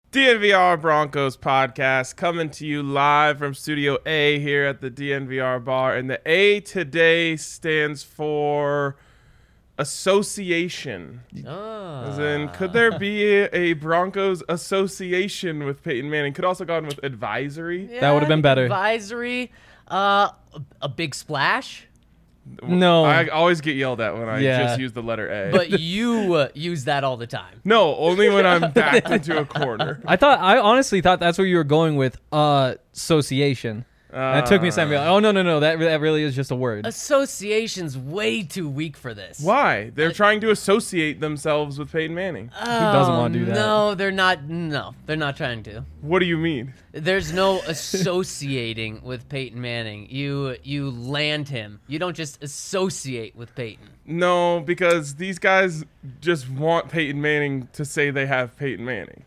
DNVR Broncos podcast coming to you live from Studio A here at the DNVR bar. And the A today stands for association. As in, could there be a Broncos association with Peyton Manning? Could also gone with advisory. Yeah, That would have been better. Advisory. A big splash. No. I always get yelled at when I Yeah. just use the letter A. But you use that all the time. no, only when I'm backed into a corner. I honestly thought that's where you were going with association. And it took me a second to be like, oh, no. That really is just a word. Association's way too weak for this. Why? They're trying to associate themselves with Peyton Manning. Who doesn't want to do that? No, they're not. No, they're not trying to. What do you mean? There's no associating with Peyton Manning. You land him. You don't just associate with Peyton. No, because these guys just want Peyton Manning to say they have Peyton Manning.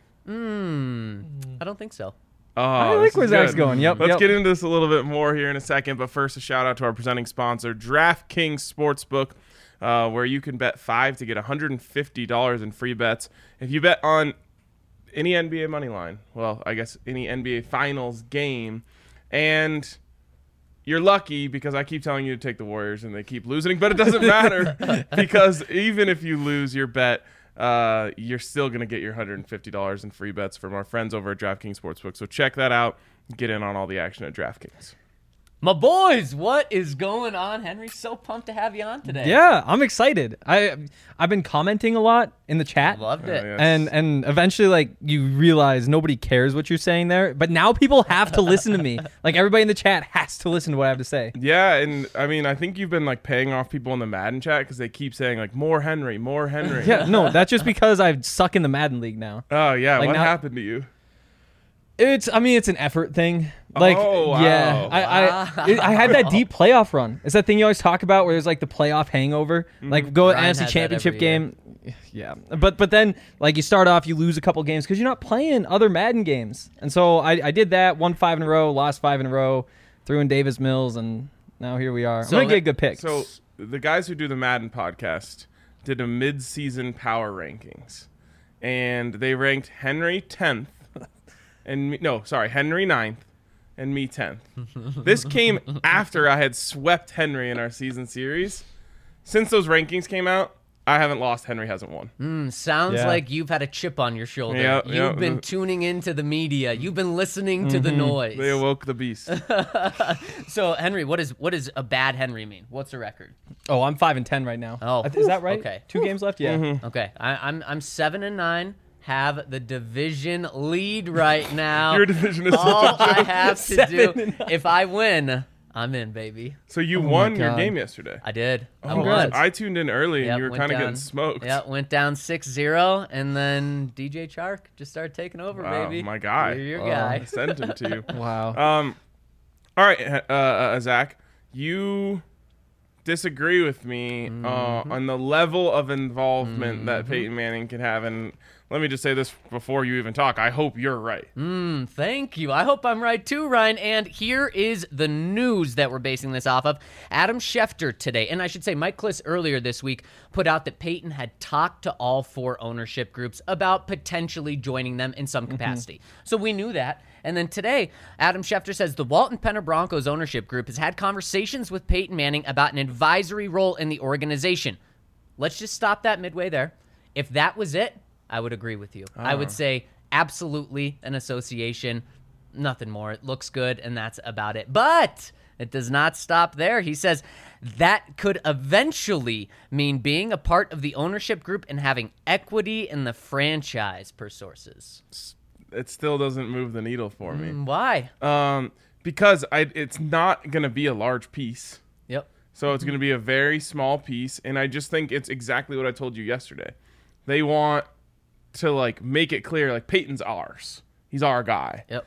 I don't think so. Oh, I like this where is Zach's good. going. Yep, Let's yep. get into this a little bit more here in a second. But first, a shout out to our presenting sponsor, DraftKings Sportsbook, where you can bet $5 to get $150 in free bets. If you bet on any NBA money line, well, I guess any NBA Finals game, and you're lucky because I keep telling you to take the Warriors and they keep losing, but it doesn't matter because even if you lose your bet, you're still going to get your $150 in free bets from our friends over at DraftKings Sportsbook. So check that out. Get in on all the action at DraftKings. My boys, what is going on, Henry? So pumped to have you on today. Yeah, I'm excited. I've been commenting a lot in the chat. Loved it. yes. And eventually, like, you realize nobody cares what you're saying there. But now people have to listen to me. Like, everybody in the chat has to listen to what I have to say. Yeah, and I mean, I think you've been like paying off people in the Madden chat because they keep saying like more Henry, more Henry. Yeah, no, that's just because I suck in the Madden League now. Oh yeah, Like what now- happened to you? It's an effort thing. Like, Oh, wow. yeah, I had that deep playoff run. It's that thing you always talk about where there's like the playoff hangover. Like go Ryan NFC has that Championship every year. game. Yeah, but then like you start off, you lose a couple games because you're not playing other Madden games. And so I did that, won 5 in a row, lost 5 in a row, threw in Davis Mills, and now here we are. So I'm gonna get a good pick. So the guys who do the Madden podcast did a mid-season power rankings, and they ranked Henry 10th, and Henry 9th, and me 10th. This came after I had swept Henry in our season series. Since those rankings came out, I haven't lost. Henry hasn't won. Sounds Yeah. like you've had a chip on your shoulder. Yeah, You've yeah. been tuning into the media. You've been listening to the noise. They awoke the beast. So, Henry, what does a bad Henry mean? What's the record? Oh, I'm 5-10 right now. Oh, Is that right? okay. 2 games left. Yeah. Okay, I'm 7-9. Have the division lead right now. Your division is All such a I joke. have to do, if I win, I'm in, baby. So you won your God. game yesterday. I did. I Congrats. won. I tuned in early, and Yep, you were went kind of down. getting smoked. Yeah, went down 6-0, and then DJ Chark just started taking over, Wow, baby. my guy. You're your I guy. sent him to you. Wow. All right, Zach, you disagree with me on the level of involvement that Peyton Manning can have, and let me just say this before you even talk. I hope you're right. Thank you. I hope I'm right too, Ryan. And here is the news that we're basing this off of. Adam Schefter today, and I should say Mike Kliss earlier this week, put out that Peyton had talked to all 4 ownership groups about potentially joining them in some capacity. So we knew that. And then today, Adam Schefter says the Walton Penner Broncos ownership group has had conversations with Peyton Manning about an advisory role in the organization. Let's just stop that midway there. If that was it, I would agree with you. I would say absolutely an association, nothing more. It looks good, and that's about it. But it does not stop there. He says that could eventually mean being a part of the ownership group and having equity in the franchise, per sources. It still doesn't move the needle for me. Why? Because it's not going to be a large piece. Yep. So it's going to be a very small piece, and I just think it's exactly what I told you yesterday. They want to like make it clear, like Peyton's ours. He's our guy. Yep.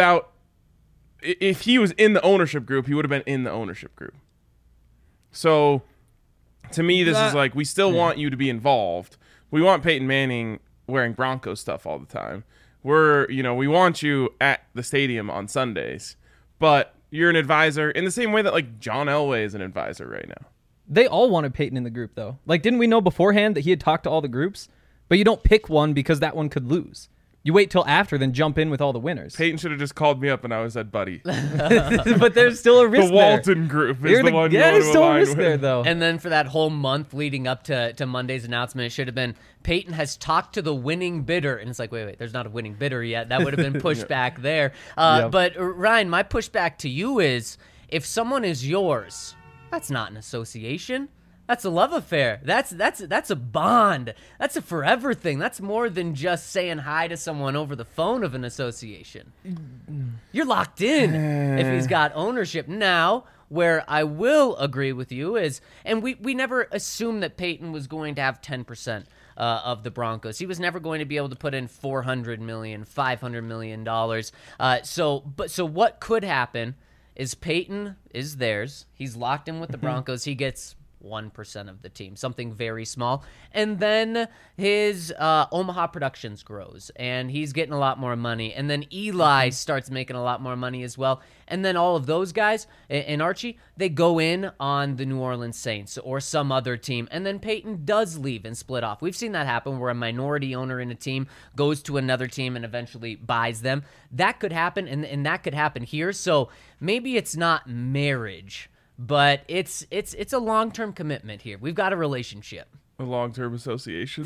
If he was in the ownership group, he would have been in the ownership group. So to me, this is like, we still want you to be involved. We want Peyton Manning wearing Broncos stuff all the time. We want you at the stadium on Sundays, but you're an advisor in the same way that like John Elway is an advisor right now. They all wanted Peyton in the group, though. Like, didn't we know beforehand that he had talked to all the groups? But you don't pick one because that one could lose. You wait till after, then jump in with all the winners. Peyton should have just called me up and I was said, buddy. But there's still a risk The Walton group is You're the one you want there's to still a align risk with. there, though. And then for that whole month leading up to Monday's announcement, it should have been Peyton has talked to the winning bidder. And it's like, wait, there's not a winning bidder yet. That would have been pushed back there. But Ryan, my pushback to you is if someone is yours, that's not an association. That's a love affair. That's a bond. That's a forever thing. That's more than just saying hi to someone over the phone of an association. You're locked in if he's got ownership. Now, where I will agree with you is, and we never assumed that Peyton was going to have 10% of the Broncos. He was never going to be able to put in $400 million, $500 million. So what could happen is Peyton is theirs. He's locked in with the Broncos. He gets 1% of the team, something very small. And then his Omaha Productions grows, and he's getting a lot more money. And then Eli starts making a lot more money as well. And then all of those guys, and Archie, they go in on the New Orleans Saints or some other team. And then Peyton does leave and split off. We've seen that happen where a minority owner in a team goes to another team and eventually buys them. That could happen, and that could happen here. So maybe it's not marriage, but it's a long-term commitment here. We've got a relationship. A long-term association.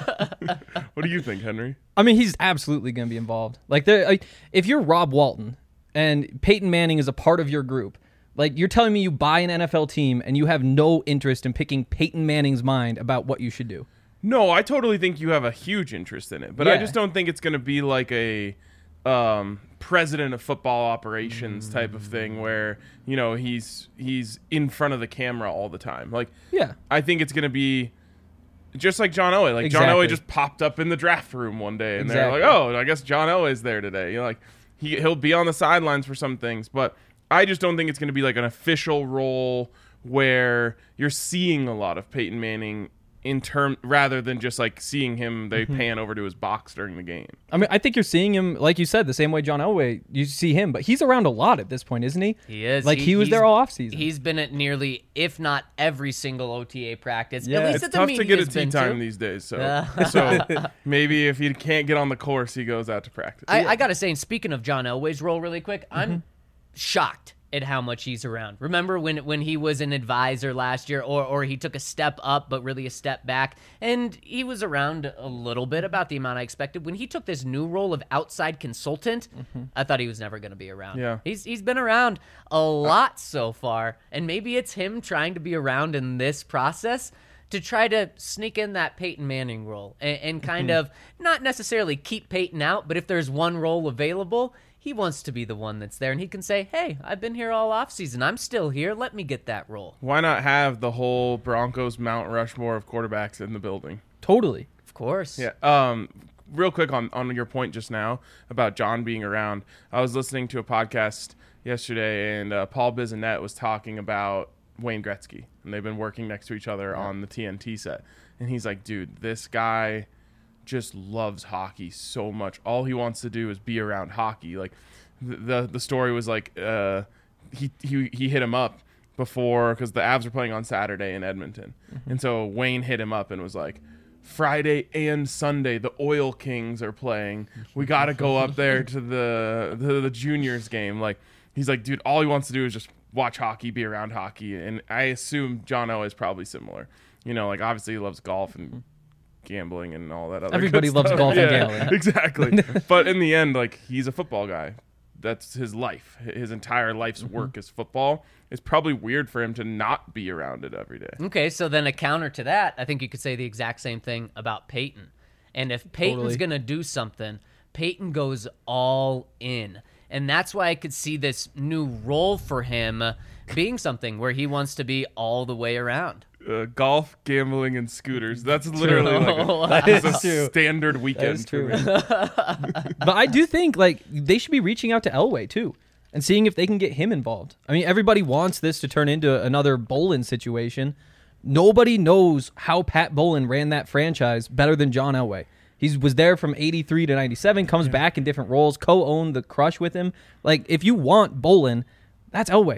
What do you think, Henry? I mean, he's absolutely going to be involved. If you're Rob Walton and Peyton Manning is a part of your group, you're telling me you buy an NFL team and you have no interest in picking Peyton Manning's mind about what you should do. No, I totally think you have a huge interest in it, but I Yeah. just don't think it's going to be like a president of football operations type of thing where, he's in front of the camera all the time. Yeah. I think it's going to be just like John Elway. John Exactly. Elway just popped up in the draft room one day, and Exactly. they're like, "Oh, I guess John Elway's there today." He'll be on the sidelines for some things, but I just don't think it's going to be like an official role where you're seeing a lot of Peyton Manning rather than just seeing him. They pan over to his box during the game. I mean, I think you're seeing him, like you said, the same way John Elway, you see him, but he's around a lot at this point, isn't he? He is. He was there all offseason. He's been at nearly, if not every single OTA practice. Yeah. At least It's at the tough to media get a has tea been time to. these days, so maybe if he can't get on the course, he goes out to practice. I got to say, and speaking of John Elway's role really quick, I'm shocked at how much he's around. Remember when he was an advisor last year, or he took a step up but really a step back, and he was around a little bit, about the amount I expected. When he took this new role of outside consultant, I thought he was never going to be around. Yeah. He's been around a lot so far, and maybe it's him trying to be around in this process to try to sneak in that Peyton Manning role and kind of not necessarily keep Peyton out, but if there's one role available, he wants to be the one that's there, and he can say, hey, I've been here all offseason. I'm still here. Let me get that role. Why not have the whole Broncos Mount Rushmore of quarterbacks in the building? Totally. Of course. Yeah. Real quick on your point just now about John being around. I was listening to a podcast yesterday, and Paul Bissonnette was talking about Wayne Gretzky, and they've been working next to each other on the TNT set. And he's like, dude, this guy just loves hockey so much. All he wants to do is be around hockey. The story was he hit him up before, because the Avs were playing on Saturday in Edmonton, and so Wayne hit him up and was like, Friday and Sunday the Oil Kings are playing. We got to go up there to the juniors game. He's like, dude, all he wants to do is just watch hockey, be around hockey. And I assume John Elway is probably similar. Obviously he loves golf and gambling and all that other Everybody good loves stuff. golf and Yeah, gambling. exactly. But in the end, he's a football guy. That's his life. His entire life's work is football. It's probably weird for him to not be around it every day. Okay, so then a counter to that, I think you could say the exact same thing about Peyton. And if Peyton's Totally. going to do something, Peyton goes all in. And that's why I could see this new role for him being something where he wants to be all the way around. Golf, gambling, and scooters. That's literally a standard weekend. That is true. For me. But I do think they should be reaching out to Elway too and seeing if they can get him involved. I mean, everybody wants this to turn into another Bolin situation. Nobody knows how Pat Bolin ran that franchise better than John Elway. He was there from 83 to 97, comes back in different roles, co-owned the Crush with him. If you want Bolin, that's Elway.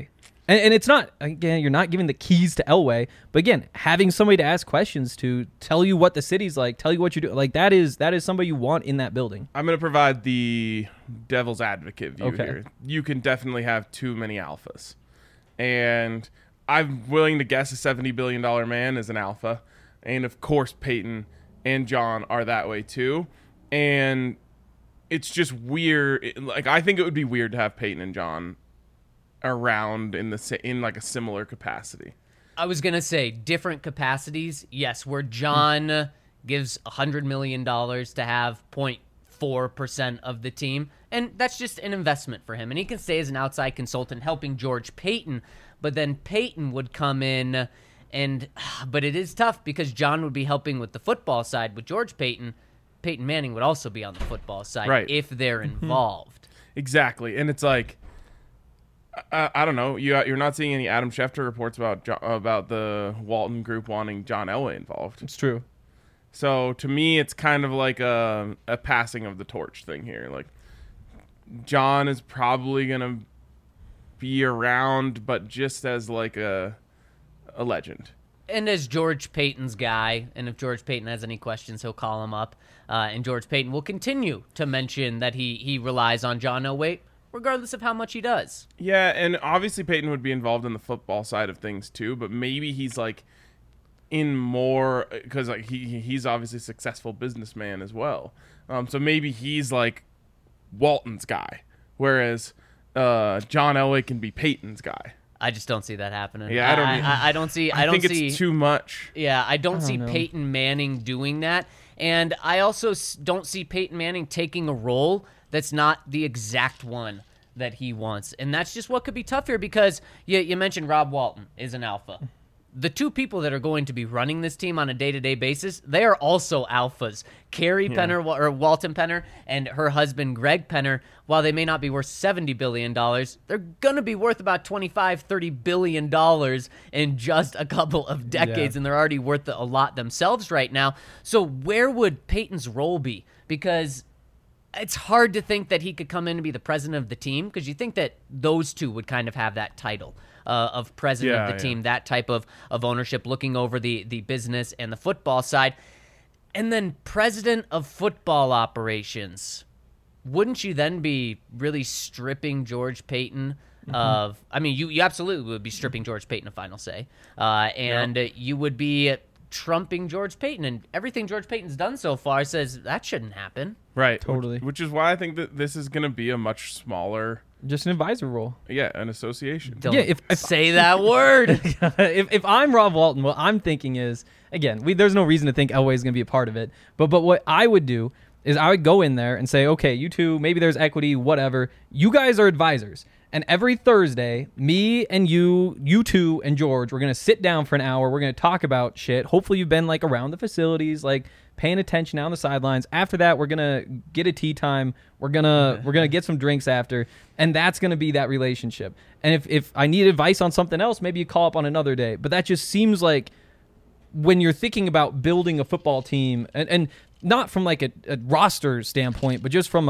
And it's not, again, you're not giving the keys to Elway, but again, having somebody to ask questions to, tell you what the city's like, tell you what you do, like that is somebody you want in that building. I'm going to provide the devil's advocate view here. You can definitely have too many alphas. And I'm willing to guess a $70 billion man is an alpha. And of course, Peyton and John are that way too. And it's just weird. Like, I think it would be weird to have Peyton and John around in like a similar capacity. I was gonna say different capacities. Yes, where John gives $100 million to have 0.4% of the team, and that's just an investment for him. And he can stay as an outside consultant helping George Payton, but then Peyton would come in, but it is tough because John would be helping with the football side. With George Payton, Peyton Manning would also be on the football side if they're involved. Exactly, and it's like, I don't know. You're not seeing any Adam Schefter reports about the Walton Group wanting John Elway involved. It's true. So to me, it's kind of like a passing of the torch thing here. Like, John is probably gonna be around, but just as like a legend. And as George Payton's guy, and if George Payton has any questions, he'll call him up. And George Payton will continue to mention that he relies on John Elway, regardless of how much he does. Yeah, and obviously Peyton would be involved in the football side of things too, but maybe he's like in more, because like he's obviously a successful businessman as well. So maybe he's like Walton's guy, whereas John Elway can be Peyton's guy. I just don't see that happening. Yeah, I don't see. I think it's too much. Yeah, I don't see know. Peyton Manning doing that, and I also don't see Peyton Manning taking a role that's not the exact one that he wants. And that's just what could be tough here, because you mentioned Rob Walton is an alpha. The two people that are going to be running this team on a day-to-day basis, they are also alphas. Carrie Penner, or Walton Penner, and her husband Greg Penner, while they may not be worth $70 billion, they're going to be worth about $25-30 billion in just a couple of decades, and they're already worth a lot themselves right now. So where would Peyton's role be? Because it's hard to think that he could come in and be the president of the team, because you think that those two would kind of have that title of president of the team, that type of ownership, looking over the business and the football side. And then president of football operations. Wouldn't you then be really stripping George Payton of... I mean, you absolutely would be stripping George Payton of final say. You would be trumping George Payton, and everything George Payton's done so far says that shouldn't happen. Right. Totally. Which is why I think that this is going to be a much smaller... Just an advisor role. Yeah, an association. Don't if say that word. if I'm Rob Walton, what I'm thinking is, again, there's no reason to think Elway is going to be a part of it. But what I would do is I would go in there and say, okay, you two, maybe there's equity, whatever. You guys are advisors. And every Thursday, me and you two and George, we're going to sit down for an hour. We're going to talk about shit. Hopefully you've been like around the facilities, like paying attention on the sidelines. After that, we're going to get a tea time. We're going to get some drinks after. And that's going to be that relationship. And if I need advice on something else, maybe you call up on another day. But that just seems like when you're thinking about building a football team, and not from like a roster standpoint, but just from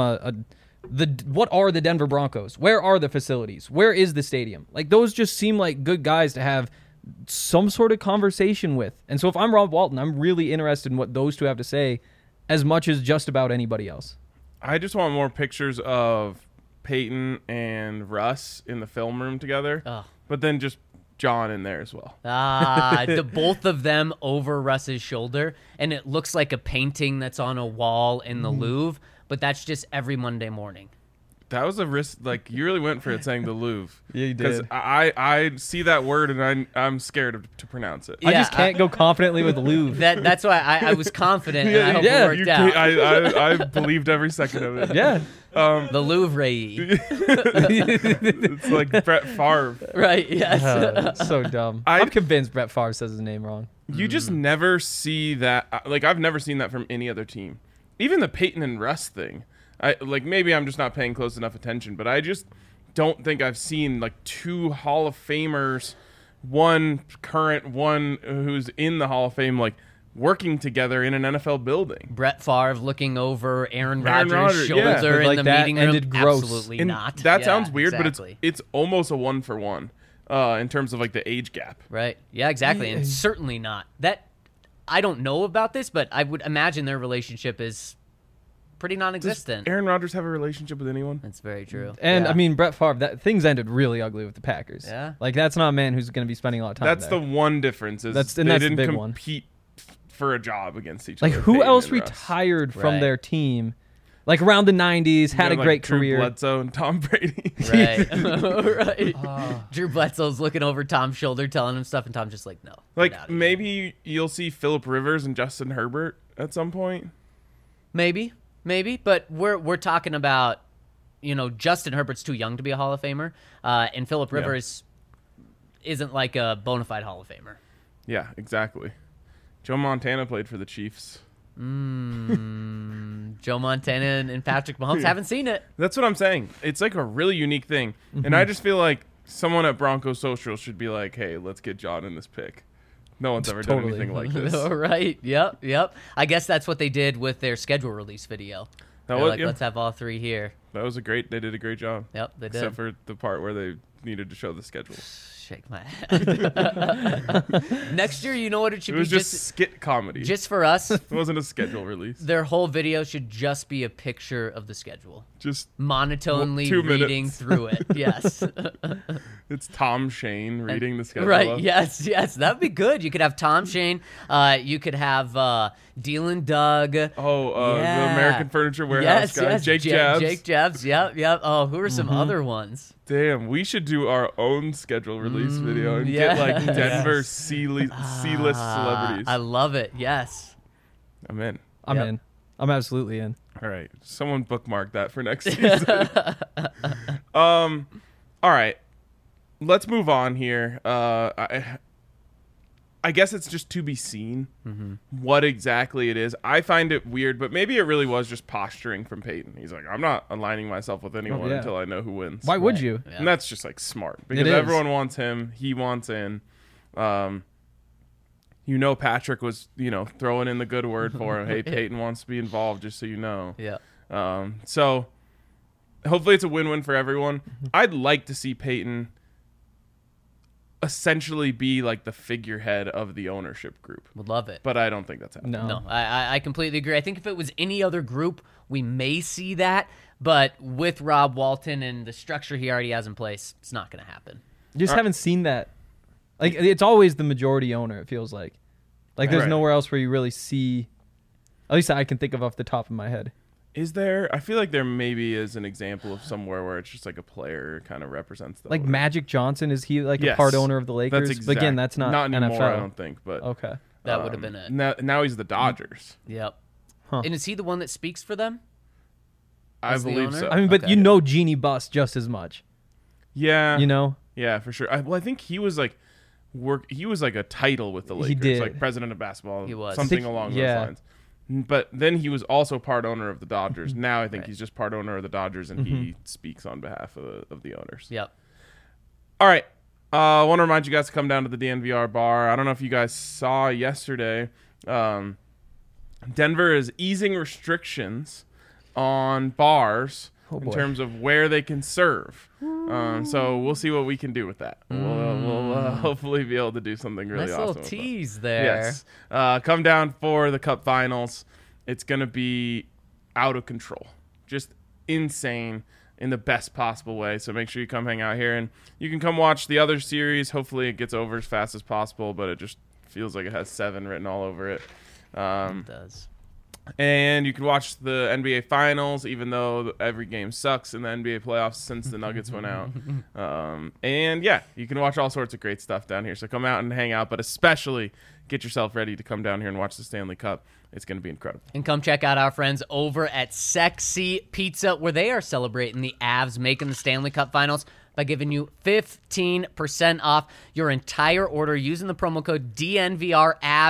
what are the Denver Broncos? Where are the facilities? Where is the stadium? Like, those just seem like good guys to have some sort of conversation with. And so if I'm Rob Walton, I'm really interested in what those two have to say as much as just about anybody else. I just want more pictures of Peyton and Russ in the film room together, but then just John in there as well. The both of them over Russ's shoulder, and it looks like a painting that's on a wall in the Louvre, but that's just every Monday morning. That was a risk. Like, you really went for it saying the Louvre. Yeah, you did. Because I see that word and I'm scared to pronounce it. I just can't go confidently with Louvre. That's why I was confident, and I hope it worked out. I believed every second of it. Yeah. The Louvre. It's like Brett Favre. Right, yes. So dumb. I'm convinced Brett Favre says his name wrong. You just never see that. Like, I've never seen that from any other team. Even the Peyton and Russ thing. Maybe I'm just not paying close enough attention, but I just don't think I've seen like two Hall of Famers, one current, one who's in the Hall of Fame, like working together in an NFL building. Brett Favre looking over Aaron Rodgers' shoulder yeah. in the meeting room. Ended gross. Absolutely and not. that sounds weird, exactly. but it's almost a 1-for-1. in terms of like the age gap. Right. Yeah, exactly. And certainly not. That I don't know about this, but I would imagine their relationship is pretty Does non-existent. Aaron Rodgers have a relationship with anyone? That's very true. And Yeah. I mean, Brett Favre, things ended really ugly with the Packers. Yeah. Like that's not a man who's going to be spending a lot of time. That's there. the one difference is That's they the didn't big one. compete for a job against each Like other. who Peyton else and Russ. retired from Right. their team? Like around the 90s, had You a got, great like, Drew career. Bledsoe and Tom Brady. Right. Right. Drew Bledsoe's looking over Tom's shoulder, telling him stuff, and Tom's just like, no. get Like outta here. maybe you'll see Phillip Rivers and Justin Herbert at some point. Maybe, but we're talking about, Justin Herbert's too young to be a Hall of Famer, and Phillip Rivers isn't like a bona fide Hall of Famer. Yeah, exactly. Joe Montana played for the Chiefs. Joe Montana and Patrick Mahomes haven't seen it. That's what I'm saying. It's like a really unique thing. Mm-hmm. And I just feel like someone at Broncos Social should be like, hey, let's get John in this pick. No one's ever done Totally. anything like this. Right. Yep. I guess that's what they did with their schedule release video. That They're was- like, yeah. let's have all three here. They did a great job. Yep, they did. Except for the part where they needed to show the schedule. Shake my head. Next year, you know what it should It was be? just skit comedy. Just for us, It wasn't a schedule release. their whole video should just be a picture of the schedule. Just Monotonely 2 reading minutes. through it. Yes. it's Tom Shane reading the schedule. Right. up. Yes. That'd be good. You could have Tom Shane. You could have Dylan Doug. Oh, Yeah. the American Furniture Warehouse guy, Jake Jabs. Jake Jabs. Yep. Oh, who are some other ones? Damn, we should do our own schedule release video and get like yes. Denver C-list celebrities. I love it. Yes. I'm in. I'm Yep. in. I'm absolutely in. All right, someone bookmark that for next season. All right, let's move on here. I guess it's just to be seen what exactly it is. I find it weird, but maybe it really was just posturing from Peyton. He's like, I'm not aligning myself with anyone yeah. until I know who wins. Why would Right. you? Yeah. And that's just like smart because is. everyone wants him. He wants in. Patrick was, throwing in the good word for him. Hey, Peyton wants to be involved, just so you know. Yeah. So hopefully it's a win-win for everyone. I'd like to see Peyton essentially be like the figurehead of the ownership group, Would love it. but I don't think that's happening. No, I completely agree. I think if it was any other group, we may see that. But with Rob Walton and the structure he already has in place, it's not going to happen. You just haven't seen that. Like it's always the majority owner. It feels like there's Right. nowhere else where you really see. At least I can think of off the top of my head. Is there? I feel like there maybe is an example of somewhere where it's just like a player kind of represents the Like owner. Magic Johnson, is he like Yes. a part owner of the Lakers? That's But again, exact- that's not anymore. NFL. I don't think, but Okay. That would have been it. Now he's the Dodgers. Yep. Huh. And is he the one that speaks for them? I As the believe owner? so. I mean, but Okay. you know Jeannie Buss just as much. Yeah, You know? yeah, for sure. I think he was like He was like a title with the He Lakers, did. like president of basketball. He was. something I think- along yeah. those lines. But then he was also part owner of the Dodgers. Now I think Right. he's just part owner of the Dodgers, and he speaks on behalf of the owners. Yep. All right. I want to remind you guys to come down to the DNVR bar. I don't know if you guys saw yesterday. Denver is easing restrictions on bars in boy. terms of where they can serve. So we'll see what we can do with that. We'll hopefully be able to do something really Nice awesome. little with that. tease there. Yes. Come down for the Cup Finals. It's going to be out of control. Just insane in the best possible way. So make sure you come hang out here. And you can come watch the other series. Hopefully it gets over as fast as possible, but it just feels like it has 7 written all over it. It does. And you can watch the NBA Finals, even though every game sucks in the NBA playoffs since the Nuggets went out. And yeah, you can watch all sorts of great stuff down here. So come out and hang out, but especially get yourself ready to come down here and watch the Stanley Cup. It's going to be incredible. And come check out our friends over at Sexy Pizza, where they are celebrating the Avs making the Stanley Cup Finals by giving you 15% off your entire order using the promo code DNVRAVS. And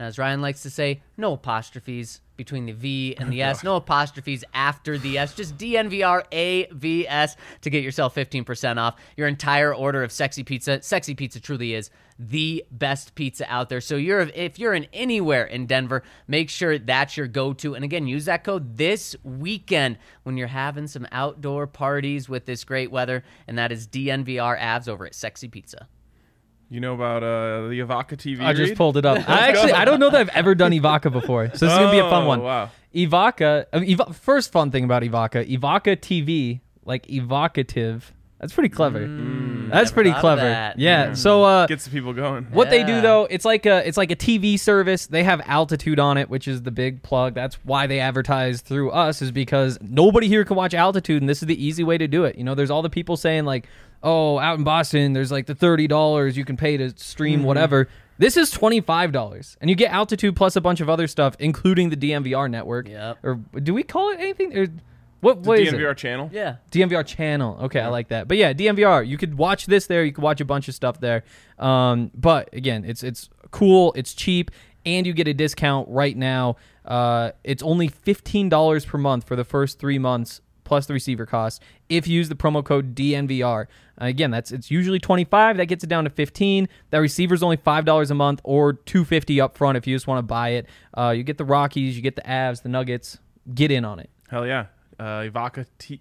As Ryan likes to say, no apostrophes between the V and the S. No apostrophes after the S. Just DNVR AVS to get yourself 15% off your entire order of Sexy Pizza. Sexy Pizza truly is the best pizza out there. So if you're in anywhere in Denver, make sure that's your go-to. And again, use that code this weekend when you're having some outdoor parties with this great weather. And that is DNVR AVS over at Sexy Pizza. You know about the Ivaca TV I just read? pulled it up. I don't know that I've ever done Ivaca before, so this is gonna be a fun one. Wow. Ivaca. First fun thing about Ivaca TV, like evocative. That's pretty clever. That's never pretty thought of clever. that. Yeah. So Gets the people going. what they do Yeah. though, it's like a TV service. They have Altitude on it, which is the big plug. That's why they advertise through us, is because nobody here can watch Altitude, and this is the easy way to do it. You know, there's all the people saying like, oh, out in Boston, there's like the $30 you can pay to stream whatever. This is $25, and you get Altitude plus a bunch of other stuff, including the DMVR network. Yep. Or do we call it anything? Or what The is it? DNVR channel. Yeah. DMVR channel. Okay, I like that. But yeah, DMVR. You could watch this there. You could watch a bunch of stuff there. But again, it's cool. It's cheap, and you get a discount right now. It's only $15 per month for the first 3 months plus the receiver cost if you use the promo code DNVR. Again, it's usually $25. That gets it down to $15. That receiver's only $5 a month or $250 up front if you just want to buy it. You get the Rockies, you get the Avs, the Nuggets. Get in on it. Hell yeah. Ivaca.tv/DNVR.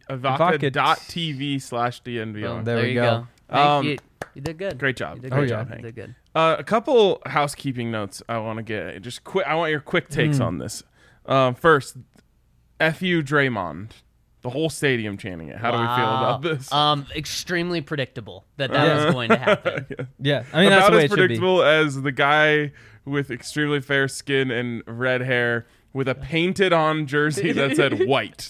Boom. There we you go. Thank you. You did good. Great job. You did Great good. job, You Hank. did good. A couple housekeeping notes I want to get. Just quick. I want your quick takes on this. First, FU Draymond. The whole stadium chanting it. How do we feel about this? Extremely predictable that was going to happen. Yeah, I mean that's About the way as it should be. predictable as the guy with extremely fair skin and red hair with a painted on jersey that said white.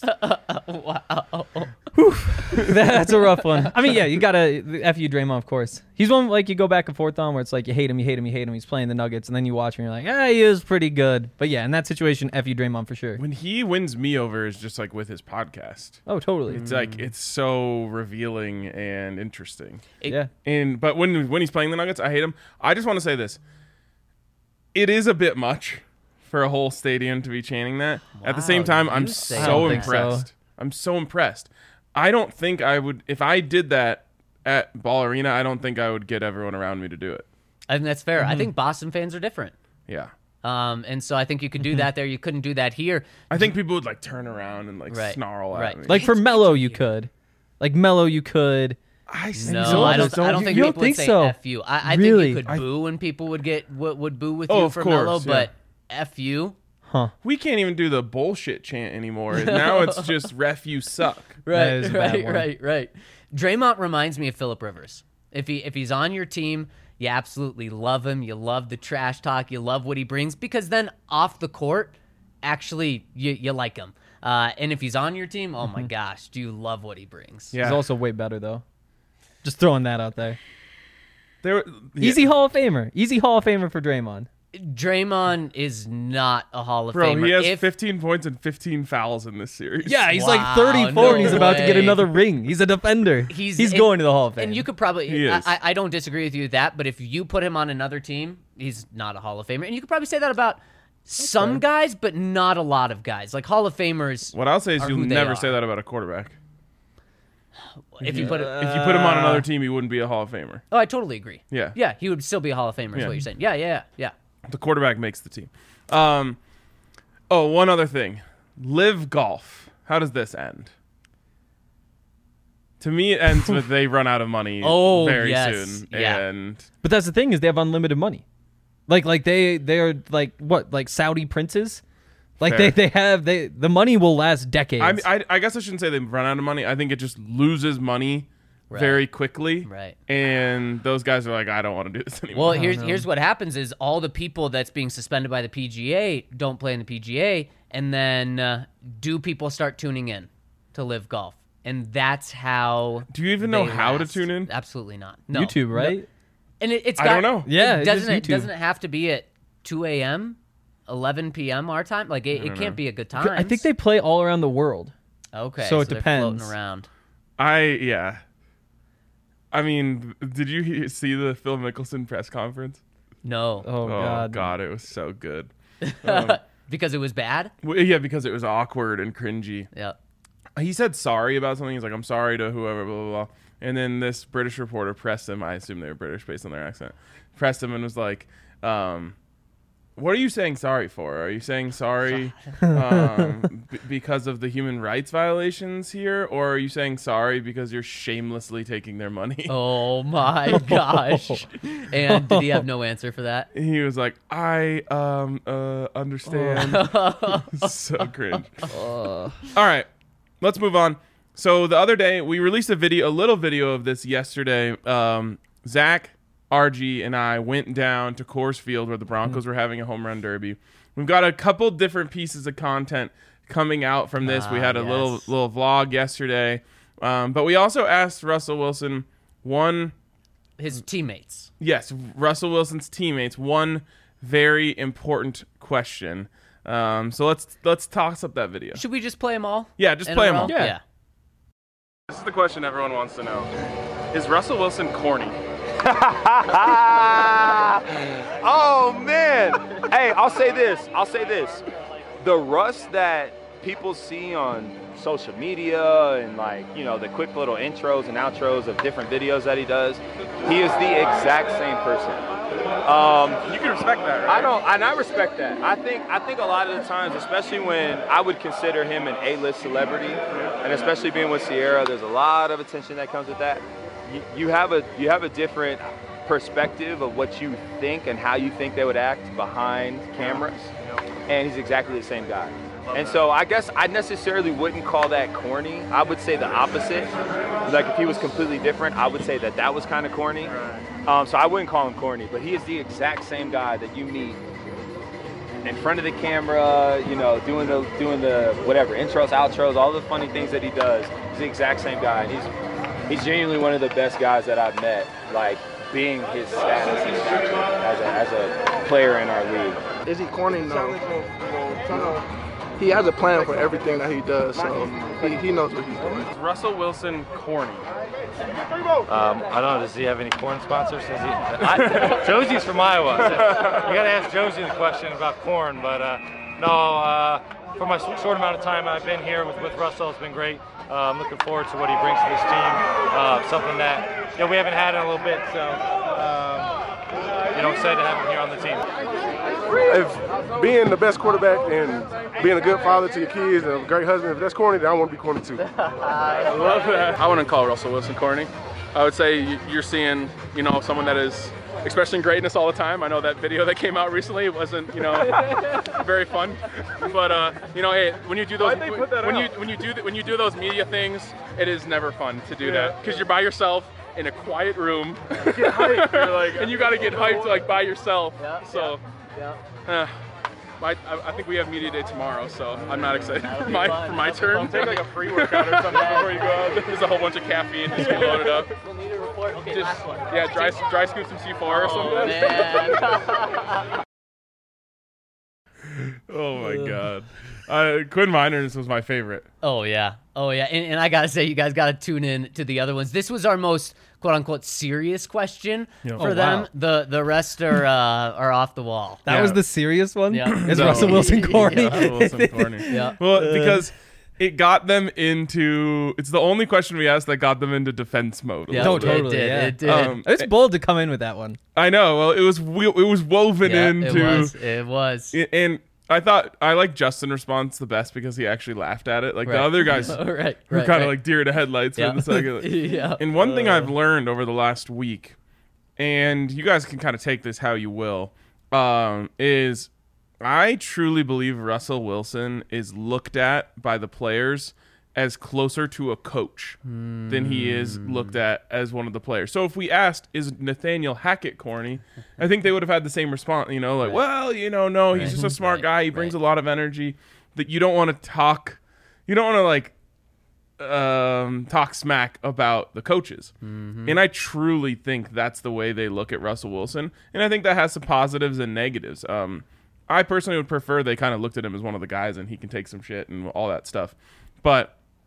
That's a rough one. I mean, yeah, you gotta FU Draymond, of course. He's one like you go back and forth on where it's like you hate him, you hate him, you hate him. He's playing the Nuggets, and then you watch him, and you're like, he is pretty good. But yeah, in that situation, FU Draymond for sure. When he wins me over is just like with his podcast. Oh, totally. It's like it's so revealing and interesting. Yeah. But when he's playing the Nuggets, I hate him. I just want to say this. It is a bit much for a whole stadium to be chanting that. At the same Wow, time, you I'm say I so don't think impressed. so. I'm so impressed. I don't think I would, if I did that at Ball Arena, I don't think I would get everyone around me to do it. I think that's fair. Mm-hmm. I think Boston fans are different. Yeah. And so I think you could do that there. You couldn't do that here. I think people would like turn around and like Right, snarl right. at me. Like for Melo, you could. Like Melo, you could. No, I don't think you people don't think would say so? F you. I Really? think you could boo and people would boo with Oh, you of for course, Melo, yeah. but F you. We can't even do the bullshit chant anymore. Now it's just ref you suck. That is a bad one. Right. Draymond reminds me of Phillip Rivers. If he's on your team, you absolutely love him. You love the trash talk. You love what he brings because then off the court, actually you like him. And if he's on your team, oh my gosh, do you love what he brings? Yeah. He's also way better though. Just throwing that out there. There, Easy Hall of Famer. Easy Hall of Famer for Draymond. Draymond is not a Hall of Bro, Famer. he has If- 15 points and 15 fouls in this series. Yeah, he's Wow, like 34 no and he's about to get way. another ring. He's a defender. He's going to the Hall of Fame. And you could probably, He is. I don't disagree with you with that, but if you put him on another team, he's not a Hall of Famer. And you could probably say that about some guys, but not a lot of guys. Like Hall of Famers, What I'll say is are you'll who they never are. say that about a quarterback. if you put it, If you put him on another team, he wouldn't be a Hall of Famer. oh, I totally agree. Yeah. Yeah, he would still be a Hall of Famer, is Yeah. what you're saying. Yeah. The quarterback makes the team. One other thing. Live Golf. How does this end? To me, it ends with they run out of money Oh, very yes. soon. Yeah. And But that's the thing is they have unlimited money. Like they're like what, like Saudi princes? Like Fair. the money will last decades. I guess I shouldn't say they run out of money. I think it just loses money very quickly. Right. And those guys are like, I don't want to do this anymore. Well, here's what happens is all the people that's being suspended by the PGA don't play in the PGA, and then do people start tuning in to Live Golf? And that's how. Do you even know they how to last. tune in? Absolutely not. No. YouTube, right? And it's I got, don't know. Yeah, it's just doesn't it YouTube. doesn't it have to be at 2 a.m., 11 p.m. our time? Like it can't be a good time. I think they play all around the world. Okay, so it they're depends. floating around. I mean, did you see the Phil Mickelson press conference? No. Oh, God. It was so good. Because it was bad? Well, yeah, because it was awkward and cringy. Yep. He said sorry about something. He's like, I'm sorry to whoever, blah, blah, blah. And then this British reporter pressed him. I assume they were British based on their accent. Pressed him and was like, what are you saying sorry for? Are you saying sorry because of the human rights violations here? Or are you saying sorry because you're shamelessly taking their money? Oh, my gosh. And did he have no answer for that? He was like, I understand. So cringe. All right, let's move on. So the other day, we released a little video of this yesterday. Zach, RG, and I went down to Coors Field where the Broncos were having a home run derby. We've got a couple different pieces of content coming out from this. We had a little vlog yesterday. But we also asked Russell Wilson his teammates. Yes, Russell Wilson's teammates, one very important question. So let's toss up that video. Should we just play them all? Yeah, just play them all. Yeah. This is the question everyone wants to know. Is Russell Wilson corny? Oh, man. Hey, I'll say this. The Russ that people see on social media and, like, you know, the quick little intros and outros of different videos that he does, he is the exact same person. You can respect that, right? I respect that. I think a lot of the times, especially when I would consider him an A-list celebrity, and especially being with Sierra, there's a lot of attention that comes with that. You have a different perspective of what you think and how you think they would act behind cameras, and he's exactly the same guy. And so I guess I necessarily wouldn't call that corny. I would say the opposite. Like if he was completely different, I would say that was kind of corny. So I wouldn't call him corny, but he is the exact same guy that you meet in front of the camera, you know, doing the whatever, intros, outros, all the funny things that he does. He's the exact same guy. And he's genuinely one of the best guys that I've met, like being his status and stature as a player in our league. Is he corny? No. He has a plan for everything that he does, so he knows what he's doing. Is Russell Wilson corny? I don't know. Does he have any corn sponsors? Josie's from Iowa. So you got to ask Josie the question about corn. But no, for my short amount of time I've been here with Russell, it's been great. I'm looking forward to what he brings to this team. Something that we haven't had in a little bit. So excited to have him here on the team. If being the best quarterback and being a good father to your kids and a great husband, if that's corny, then I want to be corny too. I love that. I wouldn't call Russell Wilson corny. I would say you're seeing, someone that is expressing greatness all the time. I know that video that came out recently wasn't, very fun. But hey, when you do those, when you do those media things, it is never fun to do that because you're by yourself in a quiet room. You get hyped. You're like, and you got to get hyped like by yourself. I think we have media day tomorrow, so I'm not excited for my turn. Take like a pre-workout or something before you go out. There's a whole bunch of caffeine just get loaded up. We'll need a report. Okay, Just, last one. dry scoop some C4 or something. Man. Oh my god. Quinn Miners was my favorite. Oh yeah. And I gotta say, you guys gotta tune in to the other ones. This was our most quote unquote serious question for them. Wow. The rest are off the wall. That was the serious one? Yeah. Is Russell Wilson corny? Russell Wilson corny. Yeah. Well, because it got them into. It's the only question we asked that got them into defense mode. Yeah, No, it totally, did. yeah. It did. It's bold to come in with that one. I know. Well, it was woven Yeah, into. It was. And I thought I like Justin's response the best because he actually laughed at it. Like the Right. other guys right. were kind of like deer to headlights Yeah. in the second. Yeah. And one thing I've learned over the last week, and you guys can kind of take this how you will, is I truly believe Russell Wilson is looked at by the players as closer to a coach than he is looked at as one of the players. So if we asked, is Nathaniel Hackett corny? I think they would have had the same response, no, he's just a smart guy. He brings a lot of energy that you don't want to talk. You don't want to talk smack about the coaches. And I truly think that's the way they look at Russell Wilson. And I think that has some positives and negatives. I personally would prefer they kind of looked at him as one of the guys and he can take some shit and all that stuff. But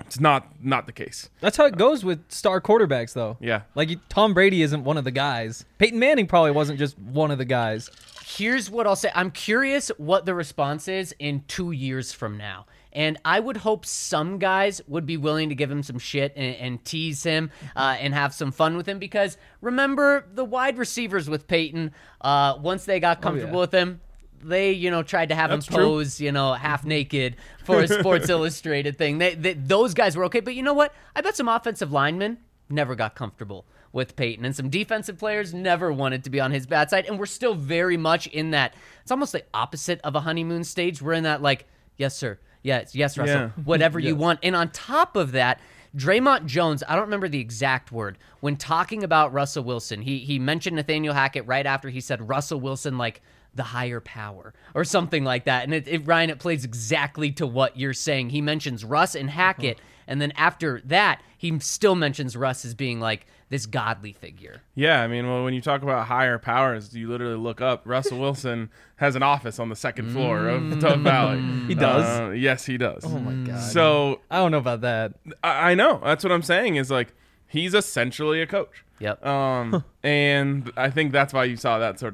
It's not the case. That's how it goes with star quarterbacks, though. Yeah. Like, Tom Brady isn't one of the guys. Peyton Manning probably wasn't just one of the guys. Here's what I'll say. I'm curious what the response is in 2 years from now. And I would hope some guys would be willing to give him some shit and tease him and have some fun with him. Because remember, the wide receivers with Peyton, once they got comfortable with him, they, tried to have him pose, half naked for a Sports Illustrated thing. Those guys were okay. But you know what? I bet some offensive linemen never got comfortable with Peyton, and some defensive players never wanted to be on his bad side. And we're still very much in that. It's almost the opposite of a honeymoon stage. We're in that, like, yes, sir. Yes, Russell. Yeah. Whatever you want. And on top of that, Draymond Jones, I don't remember the exact word, when talking about Russell Wilson, he mentioned Nathaniel Hackett right after he said Russell Wilson, like, the higher power or something like that. And Ryan, it plays exactly to what you're saying. He mentions Russ and Hackett, and then after that, he still mentions Russ as being like this godly figure. Yeah, I mean, well, when you talk about higher powers, you literally look up. Russell Wilson has an office on the second floor of Tug Valley. He does? Yes, he does. Oh, my God. So I don't know about that. I know. That's what I'm saying is, like, he's essentially a coach. Yep. And I think that's why you saw that sort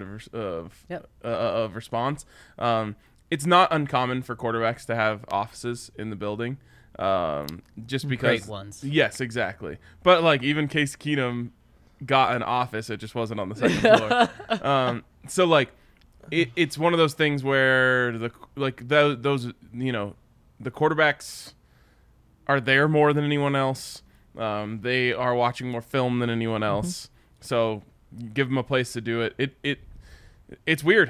of response. It's not uncommon for quarterbacks to have offices in the building. Just because great ones. Yes, exactly. But like even Case Keenum got an office, it just wasn't on the second floor. So like it's one of those things where those the quarterbacks are there more than anyone else. They are watching more film than anyone else. So give them a place to do it. It's weird.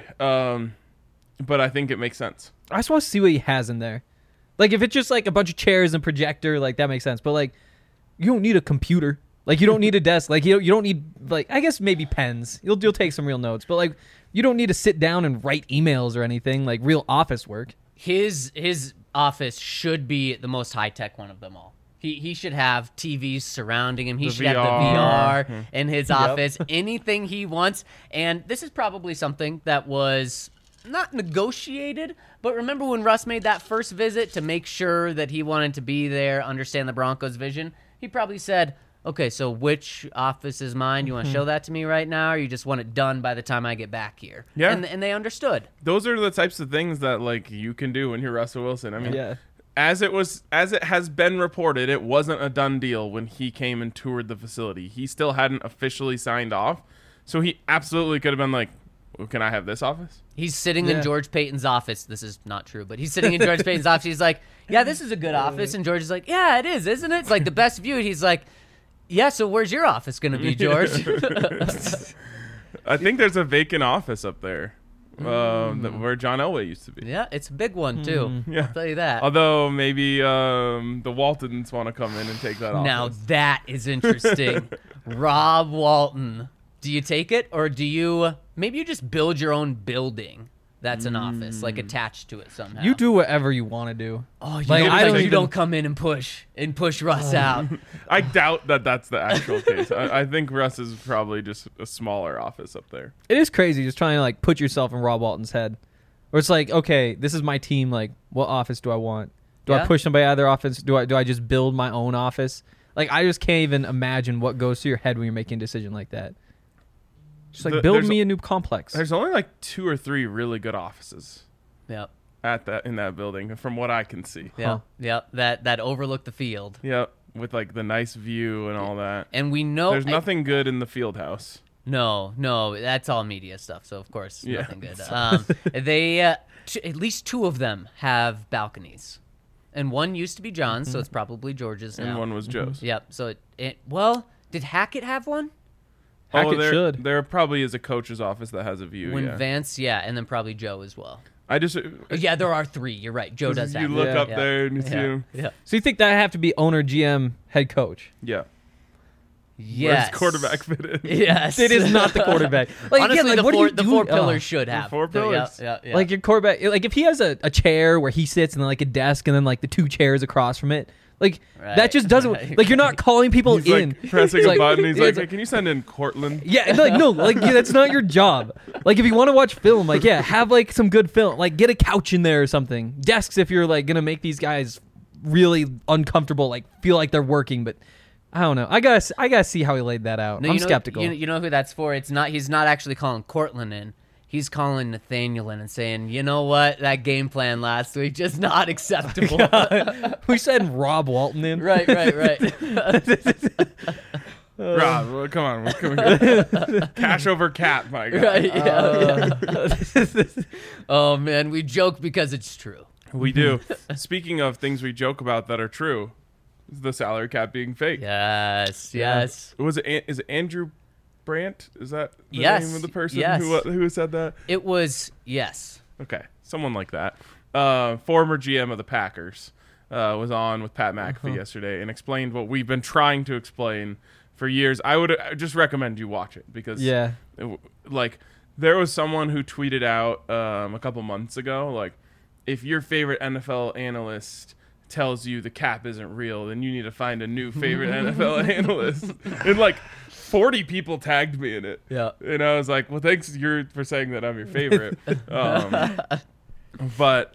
But I think it makes sense. I just want to see what he has in there. Like, if it's just, like, a bunch of chairs and projector, like, that makes sense. But, like, you don't need a computer. Like, you don't need a desk. Like, you don't need, like, I guess maybe pens. You'll take some real notes. But, like, you don't need to sit down and write emails or anything, like, real office work. His office should be the most high-tech one of them all. He should have TVs surrounding him. He should have the VR in his office. Anything he wants. And this is probably something that was not negotiated, but remember when Russ made that first visit to make sure that he wanted to be there, understand the Broncos' vision? He probably said, okay, so which office is mine? You want to show that to me right now, or you just want it done by the time I get back here? Yeah. And they understood. Those are the types of things that, like, you can do when you're Russell Wilson. I mean, as it has been reported, it wasn't a done deal when he came and toured the facility. He still hadn't officially signed off, so he absolutely could have been like, well, can I have this office? He's sitting in George Payton's office. This is not true, but he's sitting in George Payton's office. He's like, yeah, this is a good office. And George is like, yeah, it is, isn't it? It's like the best view. And he's like, yeah, so where's your office going to be, George? I think there's a vacant office up there where John Elway used to be. Yeah, it's a big one, too. Yeah. I'll tell you that. Although maybe the Waltons want to come in and take that office. Now that is interesting. Rob Walton. Do you take it, or do you maybe you just build your own building that's an office, like attached to it somehow? You do whatever you want to do. Oh, you don't come in and push Russ out. I doubt that that's the actual case. I think Russ is probably just a smaller office up there. It is crazy just trying to like put yourself in Rob Walton's head. Where it's like, okay, this is my team. Like, what office do I want? Do I push somebody out of their office? Do I just build my own office? Like, I just can't even imagine what goes through your head when you're making a decision like that. Just like build me a new complex. There's only like 2 or 3 really good offices. Yep. In that building, from what I can see. Yeah. Yep. That overlook the field. Yep. With like the nice view and all that. And we know there's nothing good in the field house. No, that's all media stuff. So of course, nothing good. They at least 2 of them have balconies, and one used to be John's, so it's probably George's now. And one was Joe's. Yep. So well, did Hackett have one? Hackett should. There probably is a coach's office that has a view. Vance, and then probably Joe as well. There are 3. You're right. Joe does have. You look up there and you see him. Yeah. So you think that have to be owner, GM, head coach? Yeah. Yes. Where's quarterback fit in? Yes. It is not the quarterback. Like, honestly, again, like, the 4 pillars should have. 4 pillars. Yeah. Like your quarterback, like if he has a chair where he sits and then like a desk and then like the 2 chairs across from it, like that just doesn't like you're not calling people he's in. Like pressing a button. He's like, hey, can you send in Cortland? Yeah, that's not your job. Like if you want to watch film, like have like some good film, like get a couch in there or something. Desks if you're like gonna make these guys really uncomfortable, like feel like they're working, but I don't know. I gotta see how he laid that out. No, I'm you know, skeptical. You know who that's for? He's not actually calling Cortland in. He's calling Nathaniel in and saying, you know what, that game plan last week just not acceptable. We said Rob Walton in. Right. Rob, well, come on. Cash over cap, my guy. Right, yeah. Oh, man, we joke because it's true. We do. Speaking of things we joke about that are true, the salary cap being fake. Yes. Is it Andrew Brandt? Is that the Yes, name of the person yes. who said that? It was, yes. Okay, someone like that. Former GM of the Packers was on with Pat McAfee yesterday and explained what we've been trying to explain for years. I would just recommend you watch it because there was someone who tweeted out a couple months ago, like, if your favorite NFL analyst tells you the cap isn't real, then you need to find a new favorite NFL analyst. And like 40 people tagged me in it. Yeah. And I was like, well, thanks for saying that I'm your favorite. But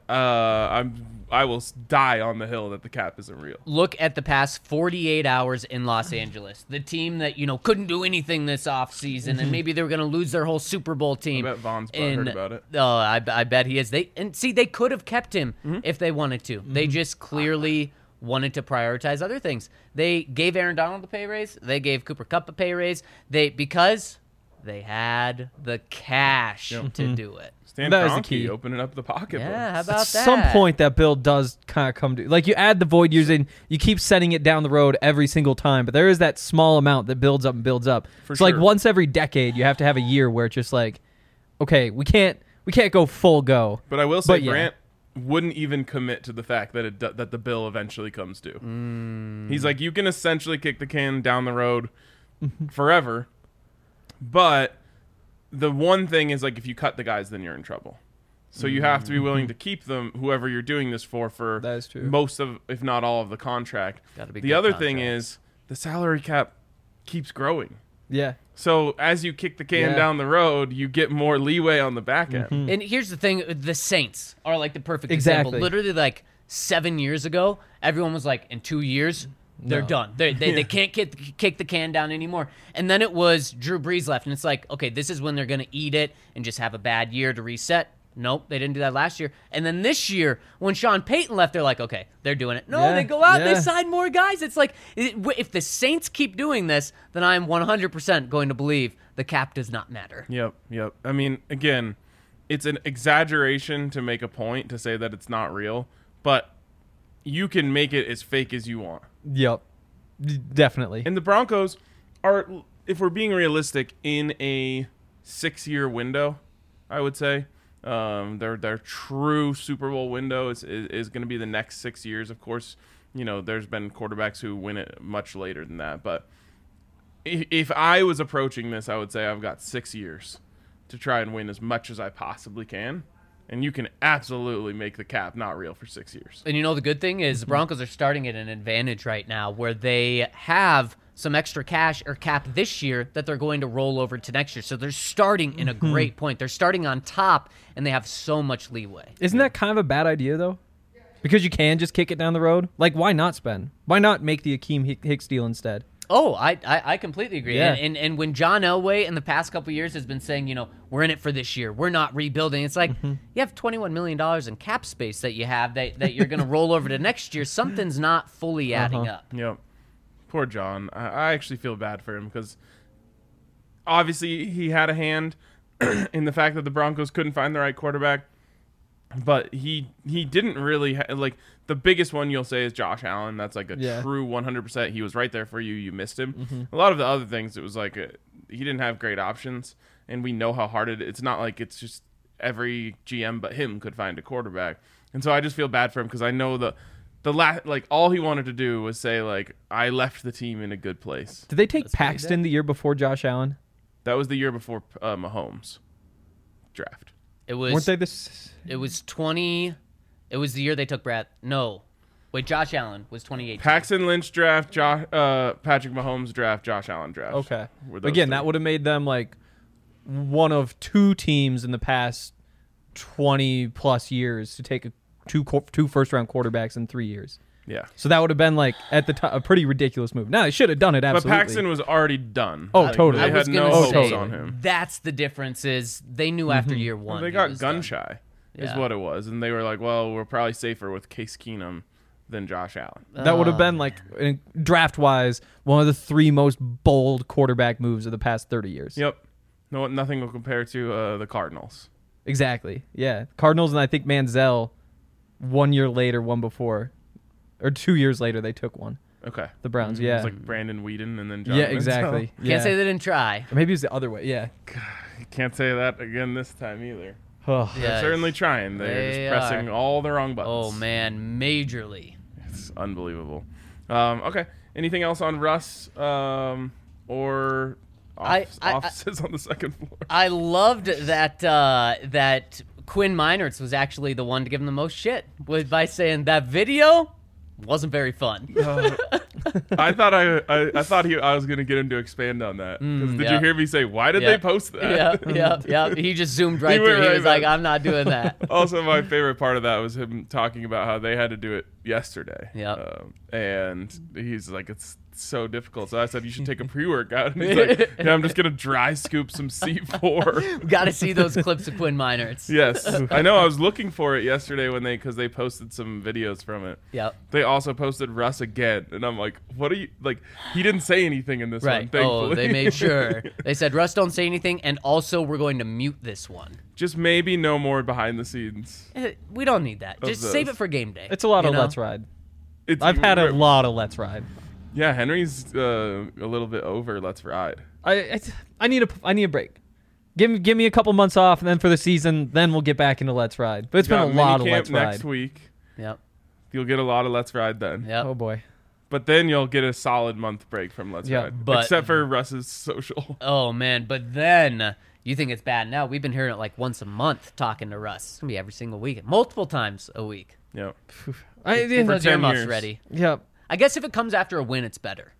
I will die on the hill that the cap isn't real. Look at the past 48 hours in Los Angeles. The team that, couldn't do anything this offseason, and maybe they were going to lose their whole Super Bowl team. I bet Vaughn's heard about it. Oh, I bet he is. They could have kept him if they wanted to. They just clearly wanted to prioritize other things. They gave Aaron Donald a pay raise. They gave Cooper Kupp a pay raise. Because they had the cash to do it. Stan That was the Kroenke key. opening up the pocketbook. Yeah, how about At that? some point, that bill does kind of come to, like, you add the void years in, you keep setting it down the road every single time, but there is that small amount that builds up and builds up. For So like sure. once every decade, you have to have a year where it's just like, okay, we can't go full go. But I will say, But yeah. Brandt wouldn't even commit to the fact that that the bill eventually comes due. He's like, you can essentially kick the can down the road forever, but the one thing is, like, if you cut the guys, then you're in trouble. So you have to be willing to keep them, whoever you're doing this for That is true. most of, if not all of the contract. Gotta be The good other thing contracts. is the salary cap keeps growing. Yeah. So as you kick the can Yeah. down the road, you get more leeway on the back end. And here's the thing, the Saints are like the perfect Exactly. example. Literally like 7 years ago, everyone was like, in 2 years, they're done. They can't kick the can down anymore. And then it was Drew Brees left, and it's like, okay, this is when they're going to eat it and just have a bad year to reset. Nope, they didn't do that last year. And then this year, when Sean Payton left, they're like, okay, they're doing it. No, Yeah, they go out, yeah. they sign more guys. It's like, if the Saints keep doing this, then I'm 100% going to believe the cap does not matter. Yep. I mean, again, it's an exaggeration to make a point to say that it's not real, but you can make it as fake as you want. Yep. Definitely. And the Broncos are, if we're being realistic, in a 6-year window, I would say. Their true Super Bowl window is going to be the next 6 years. Of course, there's been quarterbacks who win it much later than that. But if I was approaching this, I would say I've got 6 years to try and win as much as I possibly can. And you can absolutely make the cap not real for 6 years. And the good thing is the Broncos are starting at an advantage right now where they have some extra cash or cap this year that they're going to roll over to next year. So they're starting in a great point. They're starting on top, and they have so much leeway. Isn't that kind of a bad idea, though? Because you can just kick it down the road? Like, why not spend? Why not make the Akeem Hicks deal instead? Oh, I completely agree. Yeah. And when John Elway in the past couple of years has been saying, we're in it for this year, we're not rebuilding, it's like, you have $21 million in cap space that you have that you're going to roll over to next year. Something's not fully adding up. Yep. Poor John. I actually feel bad for him because obviously he had a hand in the fact that the Broncos couldn't find the right quarterback, but he didn't really like the biggest one you'll say is Josh Allen. That's like a true 100%. He was right there for you. You missed him. A lot of the other things, it was like he didn't have great options, and we know how hard it's not like it's just every GM but him could find a quarterback. And so I just feel bad for him because I know all he wanted to do was say, like, I left the team in a good place. Did they take Paxton the year before Josh Allen? That was the year before Mahomes draft. It was Weren't they this? It was the year they took Brad. No. Wait, Josh Allen was 2018. Paxton Lynch draft, Patrick Mahomes draft, Josh Allen draft. Okay. Were those Again, three. that would have made them like one of two teams in the past 20 plus years to take two first round quarterbacks in 3 years. Yeah. So that would have been like at the time a pretty ridiculous move. Now they should have done it absolutely. But Paxton was already done. Oh, totally. They I was had gonna no say, hopes on him. that's the difference is they knew after year one. They he got was gun done. shy, is Yeah. what it was, and they were like, "Well, we're probably safer with Case Keenum than Josh Allen." That would have been like draft wise one of the 3 most bold quarterback moves of the past 30 years. Yep. No, nothing will compare to the Cardinals. Exactly. Yeah. Cardinals and I think Manziel 1 year later, one before, or 2 years later they took one. Okay. The Browns. It Yeah. was like Brandon Whedon and then John Yeah. Manziel. Exactly. Can't say they didn't try. Or maybe it was the other way. Yeah. You can't say that again this time either. Oh. They're certainly trying. They're They just pressing all the wrong buttons. Oh man, majorly. It's unbelievable. Okay. Anything else on Russ or offices on the second floor? I loved that that Quinn Meinertz was actually the one to give him the most shit by saying that video wasn't very fun. I thought I was gonna get him to expand on that. 'Cause did you hear me say why did they post that? Yeah. He just zoomed right went through. He right was like, back. "I'm not doing that." Also, my favorite part of that was him talking about how they had to do it yesterday. Yep. And he's like, it's so difficult. So I said, you should take a pre-workout. And he's like, yeah, I'm just going to dry scoop some C4. Got to see those clips of Quinn Meinertz. Yes. I know. I was looking for it yesterday because they posted some videos from it. Yep. They also posted Russ again. And I'm like, what are you, like, he didn't say anything in this one, Right. thankfully. Oh, they made sure. They said, Russ, don't say anything. And also, we're going to mute this one. Just maybe no more behind the scenes. We don't need that. Just save those. it for game day. It's a lot you of know? let's ride. It's, I've had a lot of let's ride. Yeah, Henry's a little bit over let's ride. I need a break. Give me a couple months off, and then for the season, then we'll get back into let's ride. But it's been a lot of let's ride. Next week. Yep. You'll get a lot of let's ride then. Yep. Oh boy. But then you'll get a solid month break from let's ride. but- Except for Russ's social. Oh, man. But then you think it's bad now. We've been hearing it like once a month talking to Russ. It's going to be every single week. Multiple times a week. Yep. Those 10 earmuffs years. ready. Yep. I guess if it comes after a win, it's better.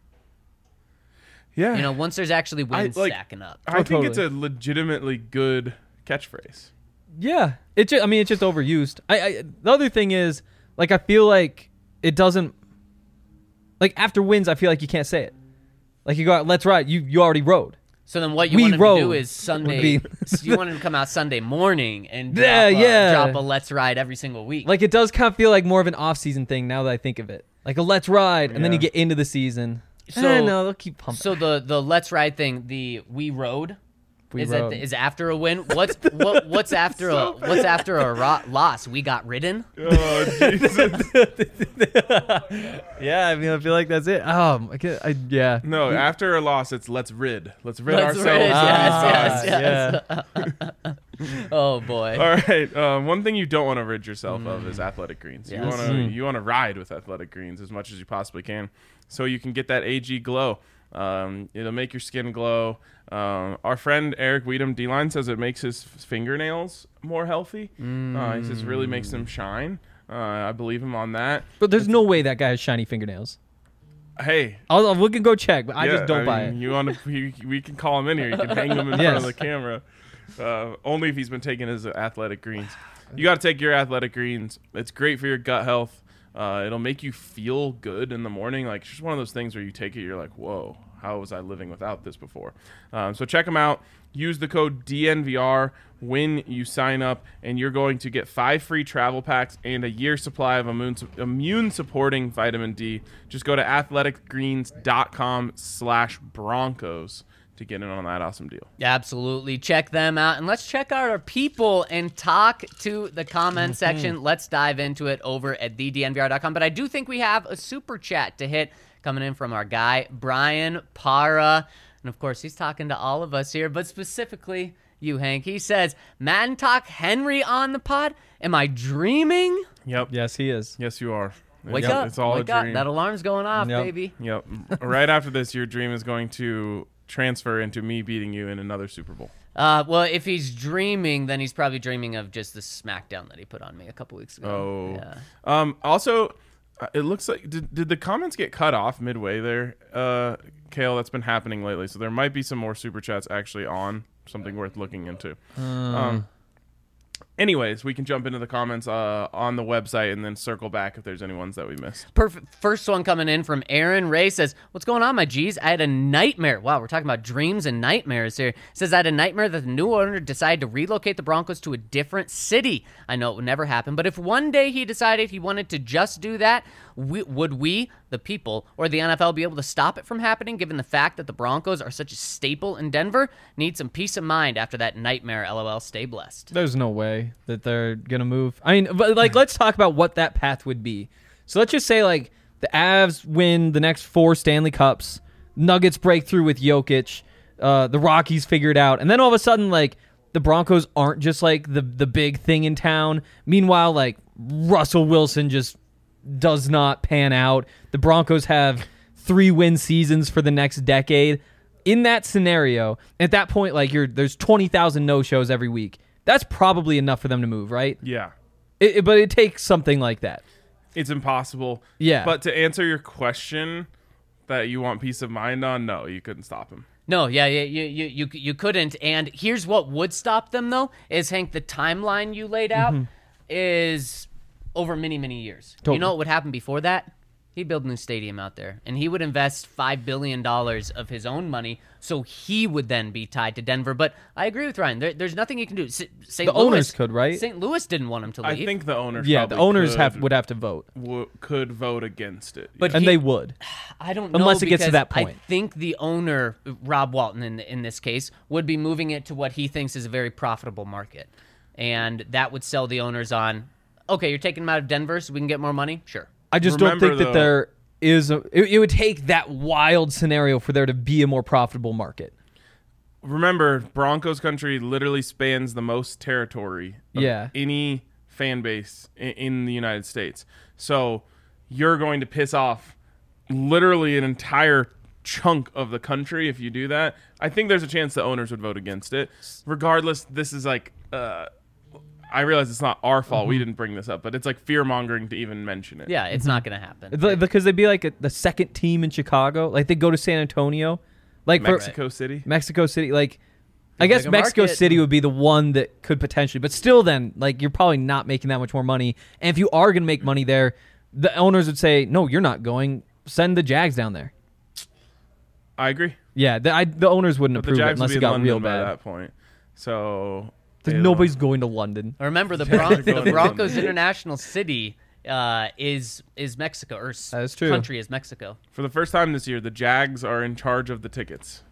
Yeah. You know, once there's actually wins stacking up. I think it's a legitimately good catchphrase. Yeah. It's just overused. The other thing is, like, I feel like it doesn't. Like after wins, I feel like you can't say it. Like you go out, let's ride. You already rode. So then what you want him to do is Sunday. You want him to come out Sunday morning and drop a let's ride every single week. Like it does kind of feel like more of an off-season thing now that I think of it. Like a let's ride, and then you get into the season. No, they'll keep pumping. So the let's ride thing, the we rode, rode. is after a win. What's after a loss? We got ridden. Oh, Jesus. Yeah, I mean, I feel like that's it. Yeah. No, after a loss, it's let's rid. Let's rid Let's ourselves. rid, yes. Yeah. Oh boy. All right. One thing you don't want to rid yourself of is Athletic Greens. Yes. You want to ride with Athletic Greens as much as you possibly can, so you can get that AG glow. It'll make your skin glow. Our friend Eric Weedham D-Line says it makes his fingernails more healthy. He says it really makes them shine. I believe him on that. But there's no way that guy has shiny fingernails. Hey, we can go check, but I just don't buy it. You want to? We can call him in here. You can hang him in front of the camera. Only if he's been taking his Athletic Greens. You got to take your Athletic Greens. It's great for your gut health. It'll make you feel good in the morning. Like, it's just one of those things where you take it, you're like, whoa, how was I living without this before? So check them out. Use the code DNVR when you sign up, and you're going to get 5 free travel packs and a year supply of immune-supporting vitamin D. Just go to athleticgreens.com/Broncos to get in on that awesome deal. Absolutely. Check them out. And let's check out our people and talk to the comment section. Let's dive into it over at thednvr.com. But I do think we have a super chat to hit coming in from our guy, Brian Para. And, of course, he's talking to all of us here, but specifically you, Hank. He says, Madden Talk Henry on the pod? Am I dreaming? Yep. Yes, he is. Yes, you are. Wake up. It's all Wake a up. dream. That alarm's going off, baby. Yep. Right after this, your dream is going to transfer into me beating you in another Super Bowl. Well, if he's dreaming, then he's probably dreaming of just the smackdown that he put on me a couple weeks ago. Oh. Yeah. Also, it looks like did the comments get cut off midway there, Kale? That's been happening lately. So there might be some more super chats actually on. Something worth looking into. Anyways, we can jump into the comments on the website and then circle back if there's any ones that we missed. Perfect. First one coming in from Aaron Ray says, "What's going on, my G's? I had a nightmare." Wow, we're talking about dreams and nightmares here. Says, "I had a nightmare that the new owner decided to relocate the Broncos to a different city. I know it would never happen, but if one day he decided he wanted to just do that, would we, the people, or the NFL be able to stop it from happening, given the fact that the Broncos are such a staple in Denver? Need some peace of mind after that nightmare, LOL. Stay blessed." There's no way that they're gonna move. I mean, but like, let's talk about what that path would be. So let's just say like the Avs win the next 4 Stanley Cups, Nuggets break through with Jokic, the Rockies figure it out, and then all of a sudden like the Broncos aren't just like the big thing in town. Meanwhile, like Russell Wilson just does not pan out. The Broncos have 3-win seasons for the next decade. In that scenario, at that point, like there's 20,000 no-shows every week. That's probably enough for them to move, right? Yeah. But it takes something like that. It's impossible. Yeah. But to answer your question that you want peace of mind on, no, you couldn't stop him. No, you couldn't. And here's what would stop them, though, is, Hank, the timeline you laid out is over many, many years. Totally. You know what would happen before that? He'd build a new stadium out there, and he would invest $5 billion of his own money, so he would then be tied to Denver. But I agree with Ryan. There's nothing he can do. Owners could, right? St. Louis didn't want him to leave. I think the owners the owners would have to vote. Could vote against it. But and they would. I don't know, unless it gets to because that point. I think the owner, Rob Walton in this case, would be moving it to what he thinks is a very profitable market. And that would sell the owners on, okay, you're taking them out of Denver so we can get more money? Sure. I just don't think that there is it would take that wild scenario for there to be a more profitable market. Remember, Broncos country literally spans the most territory of any fan base in the United States. So you're going to piss off literally an entire chunk of the country if you do that. I think there's a chance the owners would vote against it. Regardless, this is like I realize it's not our fault. We didn't bring this up, but it's like fear-mongering to even mention it. Yeah, it's not going to happen. Because they'd be like the second team in Chicago. Like, they go to San Antonio. Like Mexico City. Like, I guess Mexico market. City would be the one that could potentially. But still then, like, you're probably not making that much more money. And if you are going to make money there, the owners would say, no, you're not going. Send the Jags down there. I agree. Yeah, the owners wouldn't approve it unless it got real bad. At that point. So... Nobody's going to London. Remember, the Broncos' international city is Mexico, or that is true. Country is Mexico. For the first time this year, the Jags are in charge of the tickets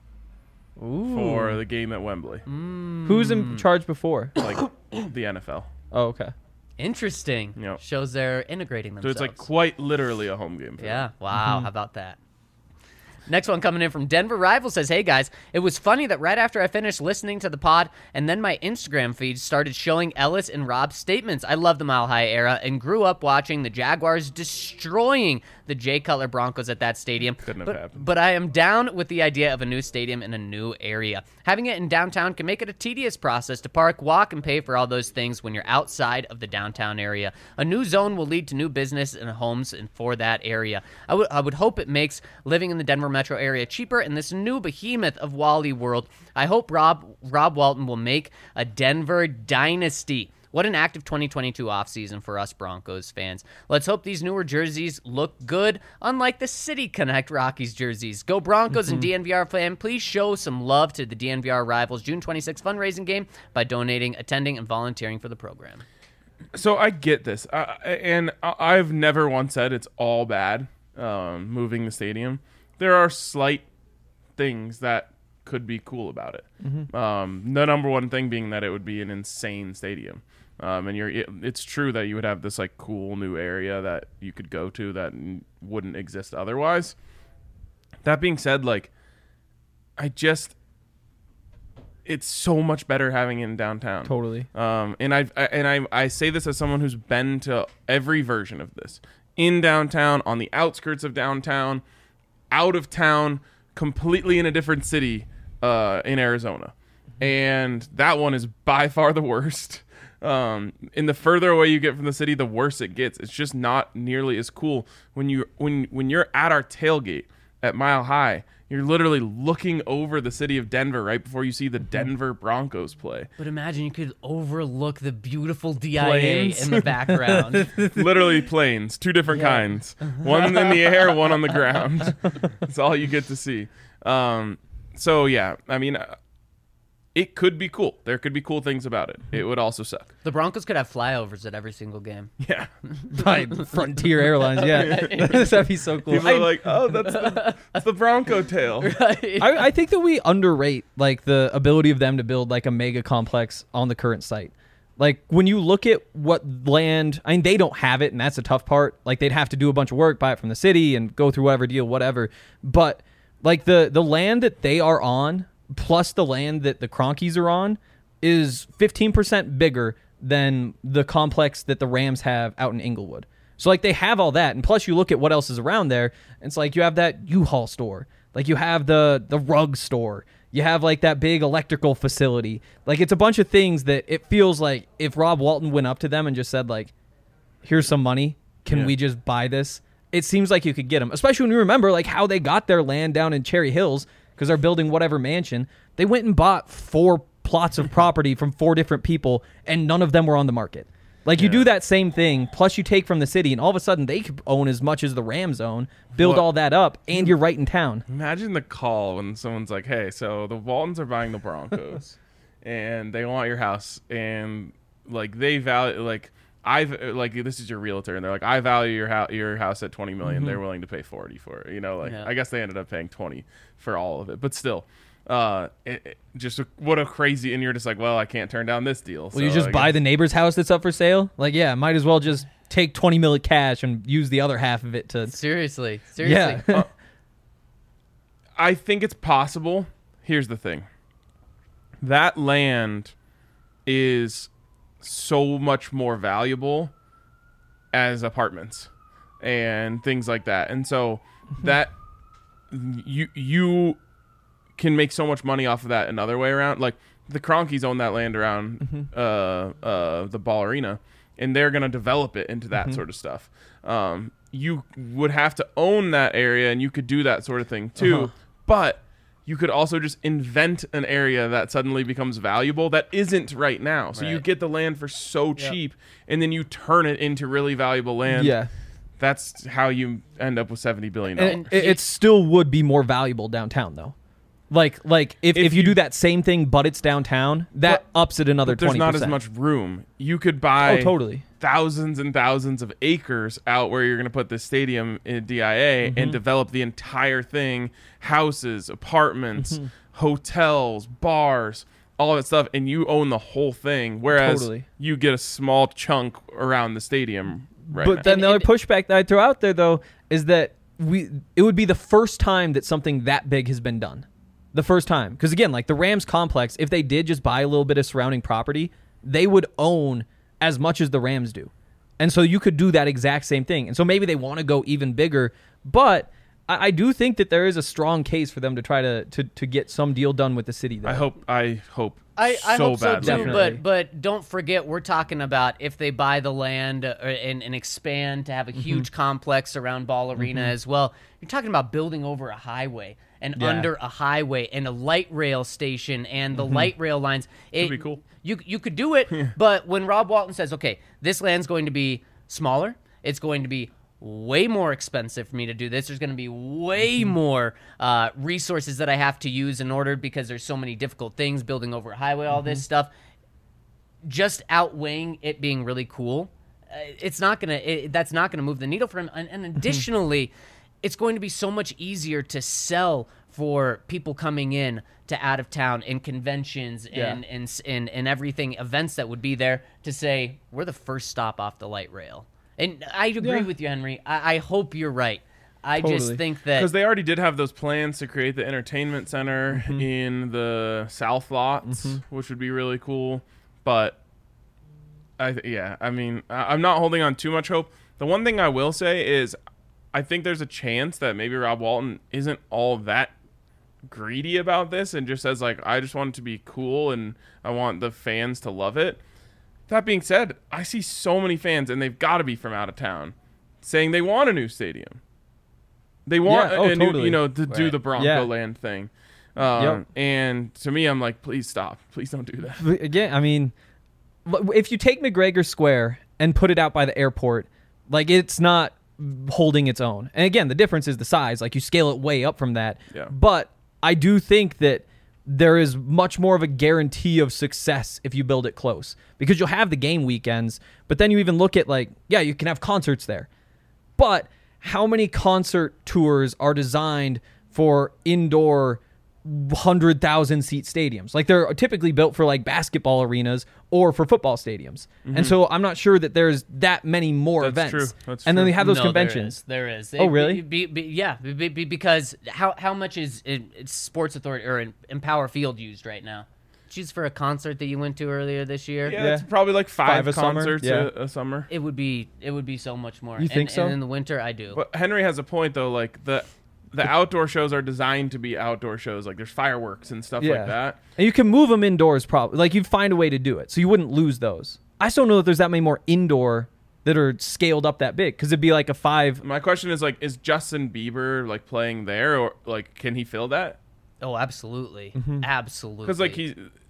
for the game at Wembley. Who's in charge before? Like the NFL. Oh, okay. Interesting. Yep. Shows they're integrating themselves. So it's like quite literally a home game for them. Wow. How about that? Next one coming in from Denver Rival says, "Hey guys, it was funny that right after I finished listening to the pod and then my Instagram feed started showing Ellis and Rob's statements. I love the Mile High era and grew up watching the Jaguars destroying the Jay Cutler Broncos at that stadium. Couldn't have happened. But I am down with the idea of a new stadium in a new area. Having it in downtown can make it a tedious process to park, walk, and pay for all those things when you're outside of the downtown area. A new zone will lead to new business and homes for that area. I would hope it makes living in the Denver metro area cheaper in this new behemoth of Wally World. I hope Rob Walton will make a Denver dynasty. What an active 2022 offseason for us Broncos fans. Let's hope these newer jerseys look good, unlike the City Connect Rockies jerseys. Go Broncos and DNVR fan. Please show some love to the DNVR Rivals June 26th fundraising game by donating, attending, and volunteering for the program." So I get this. And I've never once said it's all bad moving the stadium. There are slight things that could be cool about it. The number one thing being that it would be an insane stadium. And it's true that you would have this like cool new area that you could go to that wouldn't exist otherwise. That being said, like, it's so much better having it in downtown. Totally. And I say this as someone who's been to every version of this. In downtown, on the outskirts of downtown, out of town, completely in a different city in Arizona. And that one is by far the worst. And the further away you get from the city, the worse it gets. It's just not nearly as cool when you're at our tailgate at Mile High. You're literally looking over the city of Denver right before you see the Denver Broncos play. But imagine you could overlook the beautiful DIA Planes. in the background. Literally planes, 2 different kinds. One in the air, one on the ground. That's all you get to see. So, yeah, I mean, it could be cool. There could be cool things about it. It would also suck. The Broncos could have flyovers at every single game. Yeah. By Frontier Airlines, yeah. That'd be so cool. People are like, oh, that's the Bronco tail. I think that we underrate like the ability of them to build like a mega complex on the current site. Like when you look at what land, I mean, they don't have it, and that's a tough part. Like they'd have to do a bunch of work, buy it from the city, and go through whatever deal, whatever. But like the land that they are on, plus the land that the Cronkies are on, is 15% bigger than the complex that the Rams have out in Inglewood. So like they have all that, and plus you look at what else is around there. It's like you have that U-Haul store, like you have the rug store, you have like that big electrical facility. Like it's a bunch of things that it feels like if Rob Walton went up to them and just said like, "Here's some money, can we just buy this?" It seems like you could get them, especially when you remember like how they got their land down in Cherry Hills because they're building whatever mansion. They went and bought 4 plots of property from 4 different people, and none of them were on the market. Like, you do that same thing, plus you take from the city, and all of a sudden they could own as much as the Rams own, build all that up, and you're right in town. Imagine the call when someone's like, hey, so the Waltons are buying the Broncos, and they want your house, and, like, they value, like, this is your realtor, and they're like, I value your house at $20 million. They're willing to pay 40 for it. You know, like, I guess they ended up paying 20 for all of it, but still. What a crazy, and you're just like, well, I can't turn down this deal. Well, you just buy the neighbor's house that's up for sale? Like, yeah, might as well just take 20 million cash and use the other half of it to... Seriously. Yeah. I think it's possible. Here's the thing. That land is so much more valuable as apartments and things like that. And so that you can make so much money off of that another way around. Like the Cronkies own that land around the Ball Arena, and they're going to develop it into that sort of stuff. You would have to own that area, and you could do that sort of thing too. But you could also just invent an area that suddenly becomes valuable that isn't right now. So you get the land for so cheap, and then you turn it into really valuable land. Yeah. That's how you end up with $70 billion. And it still would be more valuable downtown, though. Like if you do that same thing, but it's downtown, that ups it another 20%. There's not as much room. You could buy totally thousands and thousands of acres out where you're going to put this stadium in DIA and develop the entire thing, houses, apartments, hotels, bars, all that stuff, and you own the whole thing, whereas you get a small chunk around the stadium right now. But then the other pushback that I throw out there, though, is that it would be the first time that something that big has been done. The first time. Because, again, like the Rams complex, if they did just buy a little bit of surrounding property, they would own as much as the Rams do. And so you could do that exact same thing. And so maybe they want to go even bigger. But I do think that there is a strong case for them to try to get some deal done with the city there. I hope I so hope so badly. too, Definitely. but don't forget we're talking about if they buy the land and expand to have a huge complex around Ball Arena as well. You're talking about building over a highway and under a highway and a light rail station and the light rail lines. It'd be cool. You could do it, but when Rob Walton says, okay, this land's going to be smaller, it's going to be way more expensive for me to do this. There's going to be way more resources that I have to use in order because there's so many difficult things, building over a highway, all this stuff. Just outweighing it being really cool, that's not going to move the needle for him. And additionally, it's going to be so much easier to sell for people coming in to out of town and conventions and everything, events that would be there, to say, we're the first stop off the light rail. And I agree with you, Henry. I hope you're right. I just think that... Because they already did have those plans to create the entertainment center in the south lots, which would be really cool. But, I'm not holding on too much hope. The one thing I will say is I think there's a chance that maybe Rob Walton isn't all that greedy about this and just says, like, I just want it to be cool and I want the fans to love it. That being said, I see so many fans, and they've got to be from out of town, saying they want a new stadium. They want totally. to do the Bronco Land thing. And to me, I'm like, please stop. Please don't do that. But again, I mean, if you take McGregor Square and put it out by the airport, like it's not holding its own. And again, the difference is the size. Like you scale it way up from that. Yeah. But I do think that there is much more of a guarantee of success if you build it close because you'll have the game weekends, but then you even look at you can have concerts there. But how many concert tours are designed for indoor 100,000 seat stadiums? Like they're typically built for like basketball arenas or for football stadiums. And so I'm not sure that there's that many more events. True. That's and true. then we have those No, conventions. There is. Oh, really? Because how much is Sports Authority or Empower Field used right now? Just for a concert that you went to earlier this year. Yeah, it's probably like five a summer. concerts Yeah. a summer. It would be so much more. You think so? And in the winter, I do. But Henry has a point though. Like the outdoor shows are designed to be outdoor shows. Like there's fireworks and stuff like that. And you can move them indoors probably. Like you'd find a way to do it. So you wouldn't lose those. I just don't know that there's that many more indoor that are scaled up that big because it'd be like a 5. My question is like, is Justin Bieber like playing there or like can he fill that? Oh, absolutely. Absolutely. Because like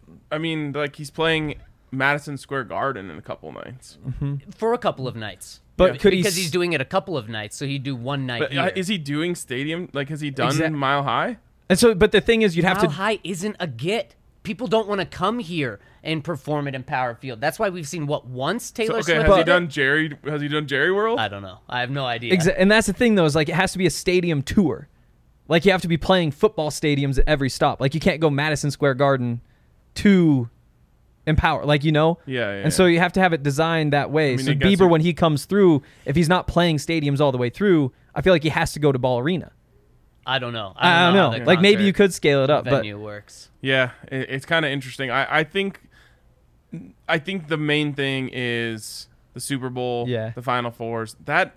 he's playing Madison Square Garden in a couple nights. For a couple of nights. But could because he's doing it a couple of nights, so he'd do one night But here. is he doing stadium? Like has he done Mile High? And so, but the thing is, you'd have Mile to. High isn't a get. People don't want to come here and perform at Empower Field. That's why we've seen once Taylor Swift. Has he done Jerry World? I don't know. I have no idea. And that's the thing, though, is like it has to be a stadium tour. Like you have to be playing football stadiums at every stop. Like you can't go Madison Square Garden to Empower, Yeah. And so you have to have it designed that way. So Bieber, when he comes through, if he's not playing stadiums all the way through, I feel like he has to go to Ball Arena. I don't know. I don't know. Like maybe you could scale it up, but venue works. Yeah, it's kind of interesting. I think the main thing is the Super Bowl, the Final Fours.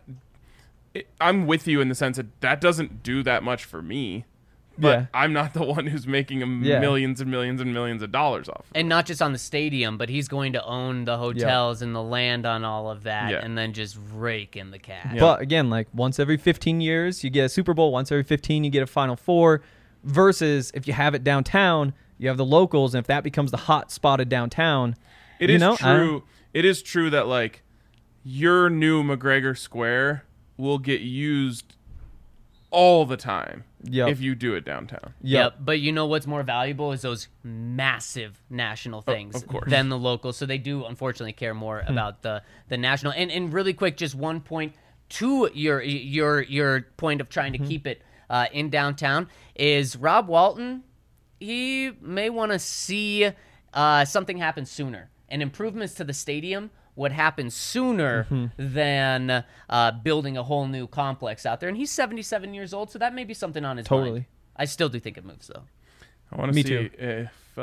I'm with you in the sense that doesn't do that much for me. But I'm not the one who's making millions and millions and millions of dollars off of it. And not just on the stadium, but he's going to own the hotels and the land on all of that and then just rake in the cash. But again, like once every 15 years, you get a Super Bowl. Once every 15, you get a Final Four. Versus if you have it downtown, you have the locals. And if that becomes the hot spotted downtown, it is true. It is true that like your new McGregor Square will get used all the time if you do it downtown. Yep. But you know what's more valuable is those massive national things of course. than the local. So they do unfortunately care more about the national. And really quick, just one point to your point of trying to keep it in downtown is Rob Walton. He may want to see something happen sooner and improvements to the stadium would happen sooner than building a whole new complex out there. And he's 77 years old, so that may be something on his mind. I still do think it moves, though. I want to see if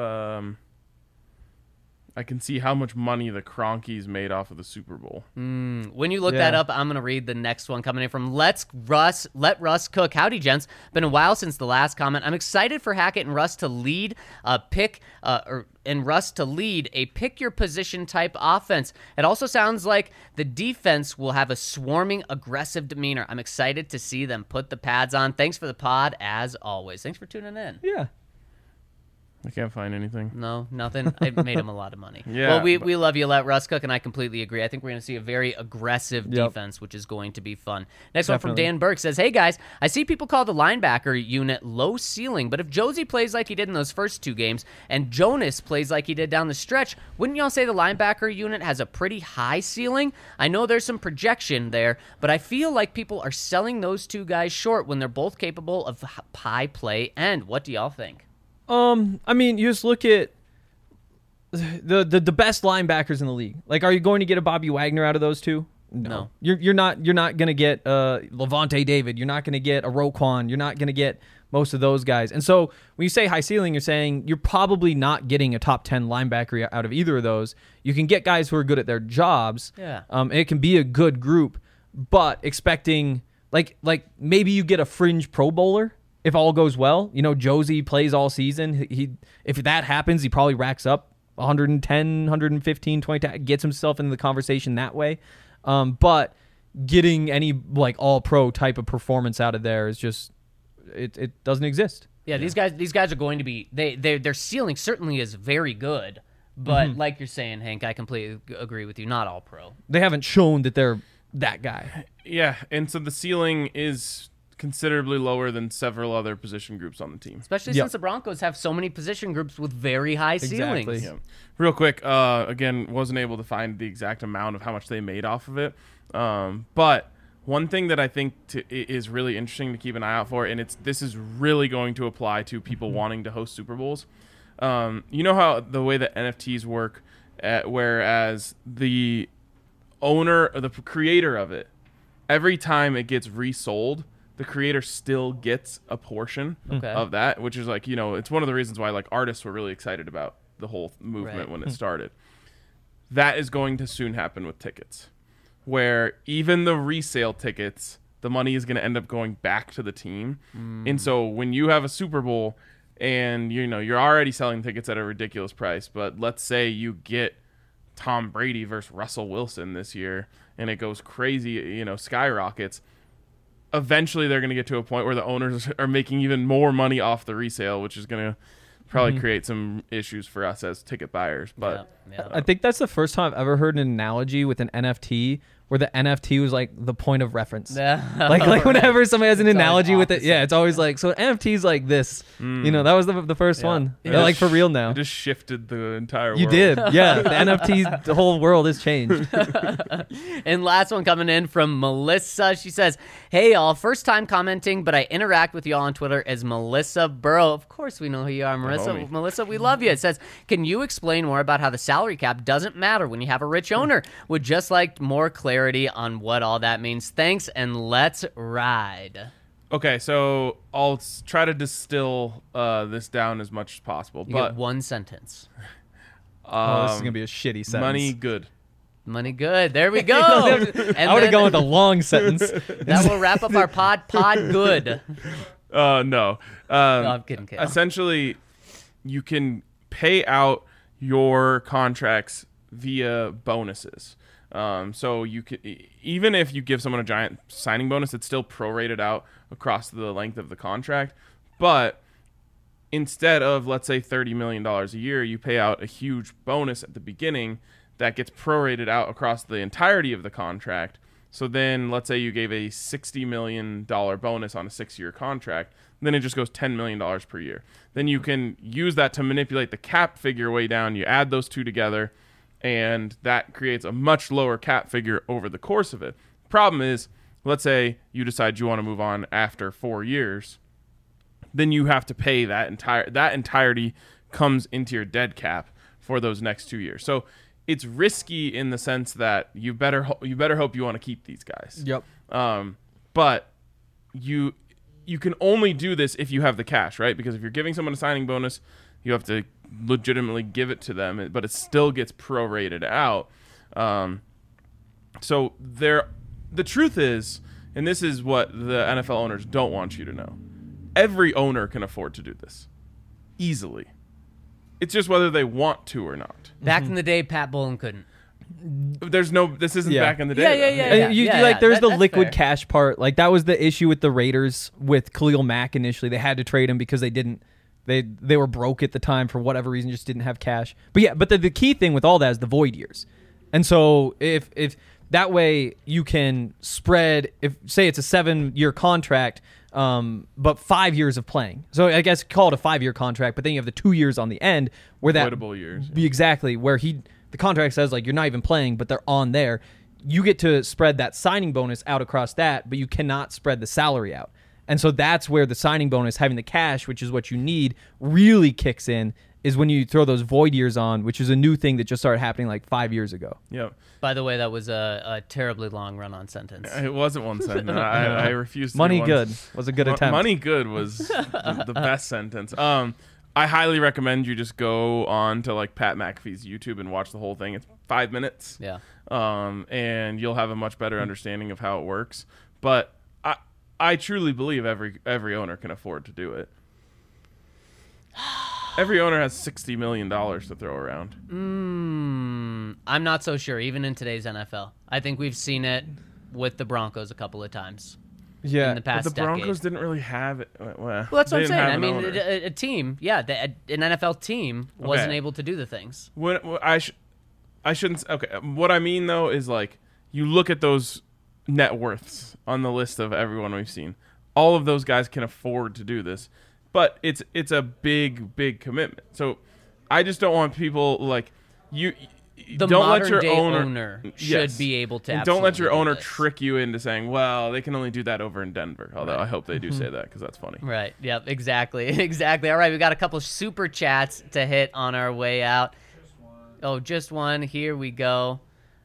I can see how much money the Cronkies made off of the Super Bowl. When you look that up, I'm going to read the next one coming in from Let Russ Cook. Howdy, gents. Been a while since the last comment. I'm excited for Hackett and Russ to lead a pick your position type offense. It also sounds like the defense will have a swarming, aggressive demeanor. I'm excited to see them put the pads on. Thanks for the pod, as always. Thanks for tuning in. Yeah. I can't find anything. No, nothing. I made him a lot of money. Yeah, well, we love you, Let Russ Cook, and I completely agree. I think we're going to see a very aggressive defense, which is going to be fun. Next one from Dan Burke says, hey, guys, I see people call the linebacker unit low ceiling, but if Josie plays like he did in those first 2 games and Jonas plays like he did down the stretch, wouldn't y'all say the linebacker unit has a pretty high ceiling? I know there's some projection there, but I feel like people are selling those 2 guys short when they're both capable of high play end. What do y'all think? I mean, you just look at the best linebackers in the league. Like, are you going to get a Bobby Wagner out of those 2? No. You're not going to get Levante David. You're not going to get a Roquan. You're not going to get most of those guys. And so when you say high ceiling, you're saying you're probably not getting a top 10 linebacker out of either of those. You can get guys who are good at their jobs. Yeah. And it can be a good group, but expecting like maybe you get a fringe Pro Bowler. If all goes well, Josie plays all season. If that happens, he probably racks up 110, 115, 20, gets himself into the conversation that way. But getting any like all pro type of performance out of there is just it doesn't exist. Yeah, these guys are going to be their ceiling certainly is very good, but like you're saying, Hank, I completely agree with you. Not all pro. They haven't shown that they're that guy. Yeah, and so the ceiling is considerably lower than several other position groups on the team. Especially since the Broncos have so many position groups with very high ceilings. Yeah. Real quick, again, wasn't able to find the exact amount of how much they made off of it. But one thing that I think is really interesting to keep an eye out for, and this is really going to apply to people wanting to host Super Bowls. You know how the way that NFTs work, whereas the owner or the creator of it, every time it gets resold, the creator still gets a portion of that, which is like, it's one of the reasons why like artists were really excited about the whole movement when it started. That is going to soon happen with tickets, where even the resale tickets, the money is going to end up going back to the team. And so when you have a Super Bowl and you're already selling tickets at a ridiculous price, but let's say you get Tom Brady versus Russell Wilson this year and it goes crazy, skyrockets. Eventually they're going to get to a point where the owners are making even more money off the resale, which is going to probably create some issues for us as ticket buyers. But I think that's the first time I've ever heard an analogy with an NFT where the NFT was like the point of reference. Like whenever somebody has an analogy with it, it's always like, so NFT's like this. That was the first one. They're like for real now. It just shifted the entire world. You did. Yeah. The NFT, the whole world has changed. And last one coming in from Melissa. She says, hey, all, first time commenting, but I interact with you all on Twitter as Melissa Burrow. Of course we know who you are, Marissa. Melissa, we love you. It says, can you explain more about how the salary cap doesn't matter when you have a rich owner? Would just like more clarity on what all that means. Thanks, and let's ride. Okay, so I'll try to distill this down as much as possible. You get one sentence. This is going to be a shitty sentence. Money good. Money good. There we go. And I would have gone with a long sentence. That will wrap up our pod good. No. No, I'm kidding. Essentially, you can pay out your contracts via bonuses. So you could, even if you give someone a giant signing bonus, it's still prorated out across the length of the contract. But instead of, let's say, $30 million a year, you pay out a huge bonus at the beginning that gets prorated out across the entirety of the contract. So then let's say you gave a $60 million bonus on a 6-year contract. Then it just goes $10 million per year. Then you can use that to manipulate the cap figure way down. You add those two together, and that creates a much lower cap figure over the course of it. Problem is, let's say you decide you want to move on after 4 years, then you have to pay that entirety comes into your dead cap for those next 2 years. So it's risky in the sense that you better hope you want to keep these guys. Yep. But you can only do this if you have the cash, right? Because if you're giving someone a signing bonus, you have to legitimately give it to them, but it still gets prorated out. So the truth is, and this is what the NFL owners don't want you to know, every owner can afford to do this easily. It's just whether they want to or not. Back in the day, Pat Bowlen couldn't. This isn't back in the day. There's the liquid cash part. Like that was the issue with the Raiders with Khalil Mack initially. They had to trade him because they were broke at the time for whatever reason, just didn't have cash. But the key thing with all that is the void years. And so if that way you can spread, if say it's a 7-year contract, but 5 years of playing. So I guess call it a 5-year contract, but then you have the 2 years on the end where that avoidable years. Exactly, where the contract says like you're not even playing, but they're on there. You get to spread that signing bonus out across that, but you cannot spread the salary out. And so that's where the signing bonus, having the cash, which is what you need, really kicks in, is when you throw those void years on, which is a new thing that just started happening like 5 years ago. Yeah. By the way, that was a terribly long run-on sentence. It wasn't one sentence. I refused to Money good was a good attempt. Money good was the best sentence. I highly recommend you just go on to like Pat McAfee's YouTube and watch the whole thing. It's 5 minutes. Yeah. And you'll have a much better understanding of how it works. But I truly believe every owner can afford to do it. Every owner has $60 million to throw around. I'm not so sure, even in today's NFL. I think we've seen it with the Broncos a couple of times. Yeah, in the past But the Broncos decade. didn't really have it. Well, That's what they I'm didn't saying. have I an mean, owner. a team, an NFL team wasn't Okay. able to do the things. I shouldn't. Okay, what I mean though is like you look at those net worths on the list of everyone we've seen. All of those guys can afford to do this, but it's a big commitment. So I just don't want people like you. The don't let modern your day owner should Yes. be able to. And don't let your absolutely do owner this. trick you into saying, "Well, they can only do that over in Denver." Although I hope they do say that because that's funny. Right. Yep. Exactly. Exactly. All right. We got a couple super chats to hit on our way out. Just one. Here we go.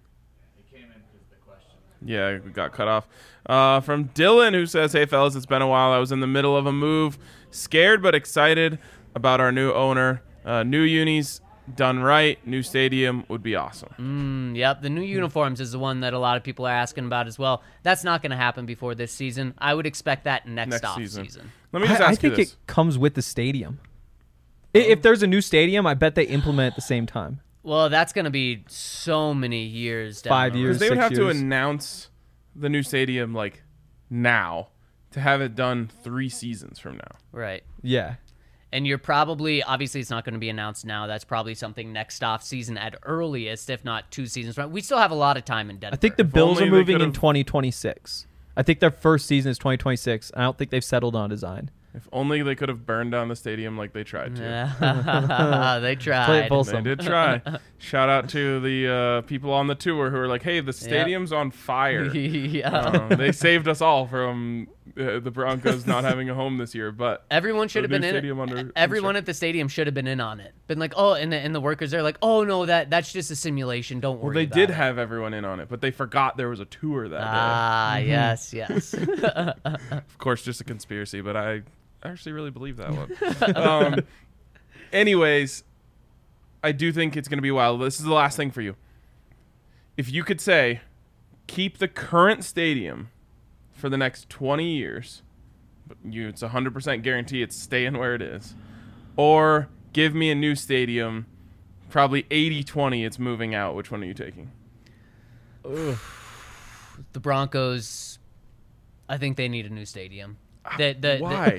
Yeah, we got cut off. From Dylan, who says, "Hey, fellas, it's been a while. I was in the middle of a move. Scared but excited about our new owner. New unis done right. New stadium would be awesome." Yep. The new uniforms is the one that a lot of people are asking about as well. That's not going to happen before this season. I would expect that next off season. Let me just I ask you think this. it comes with the stadium. If there's a new stadium, I bet they implement at the same time. Well, that's going to be so many years down 5 the road. years. Because they would 6 have to years. announce the new stadium like now to have it done 3 seasons from now. Right. Yeah. And you're probably, obviously it's not going to be announced now. That's probably something next off season at earliest, if not 2 seasons from. We still have a lot of time in Denver. I think the Bills only are they moving in could've- 2026. I think their first season is 2026. I don't think they've settled on design. If only they could have burned down the stadium like they tried to. They tried. Play it full They did try. Shout out to the people on the tour who were like, "Hey, the stadium's on fire." Yeah. They saved us all from the Broncos not having a home this year. But Everyone should have the been new in stadium under it. Everyone construction. at the stadium should have been in on it. Been like, oh, and the workers are like, oh no, that's just a simulation. Don't Well, worry. they about did it. have everyone in on it, but they forgot there was a tour that day. Ah, yes. Of course, just a conspiracy, but I actually really believe that one. Anyways, I do think it's going to be wild. This is the last thing for you. If you could say, keep the current stadium for the next 20 years, but it's 100% guarantee it's staying where it is, or give me a new stadium, probably 80-20 it's moving out, which one are you taking? The Broncos, I think they need a new stadium. Why?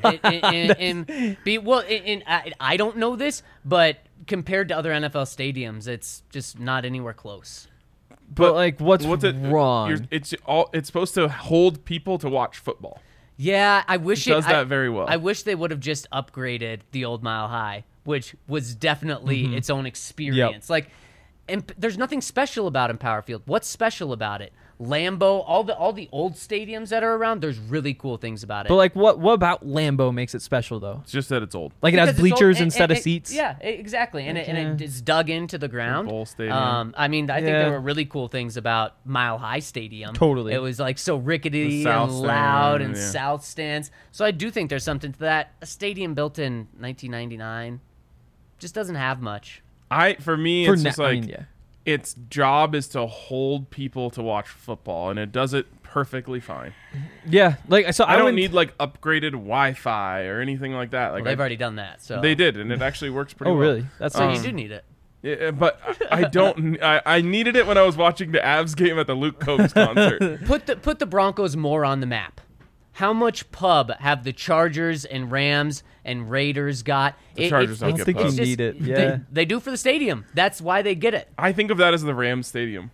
I don't know this, but compared to other NFL stadiums, it's just not anywhere close. But like, what's it wrong? It's supposed to hold people to watch football. Yeah, I wish It does that very well. I wish they would have just upgraded the old Mile High, which was definitely its own experience. Like, and there's nothing special about Empower Field. What's special about it? Lambeau, all the old stadiums that are around, there's really cool things about it. But like, what about Lambeau makes it special though? It's just that it's old. Like it Because has it's old bleachers and- instead of and- seats. Yeah, exactly. And it's dug into the ground. bowl stadium. I mean, I think Yeah. there were really cool things about Mile High Stadium. Totally. It was like so rickety The south and loud stand, and yeah. south stands. So I do think there's something to that. A stadium built in 1999 just doesn't have much. For me, For it's na- just like I mean, yeah. its job is to hold people to watch football, and it does it perfectly fine. Yeah, like so I don't went- need like upgraded Wi-Fi or anything like that. Like Well, they've already done that. So they did, and it actually works pretty Oh well. really? That's So nice. you do need it. Yeah, but I don't. I needed it when I was watching the Avs game at the Luke Combs concert. Put the Broncos more on the map. How much pub have the Chargers and Rams and Raiders got? The Chargers don't I don't get think pub. you need it. They, Yeah. they do for the stadium. That's why they get it. I think of that as the Rams stadium.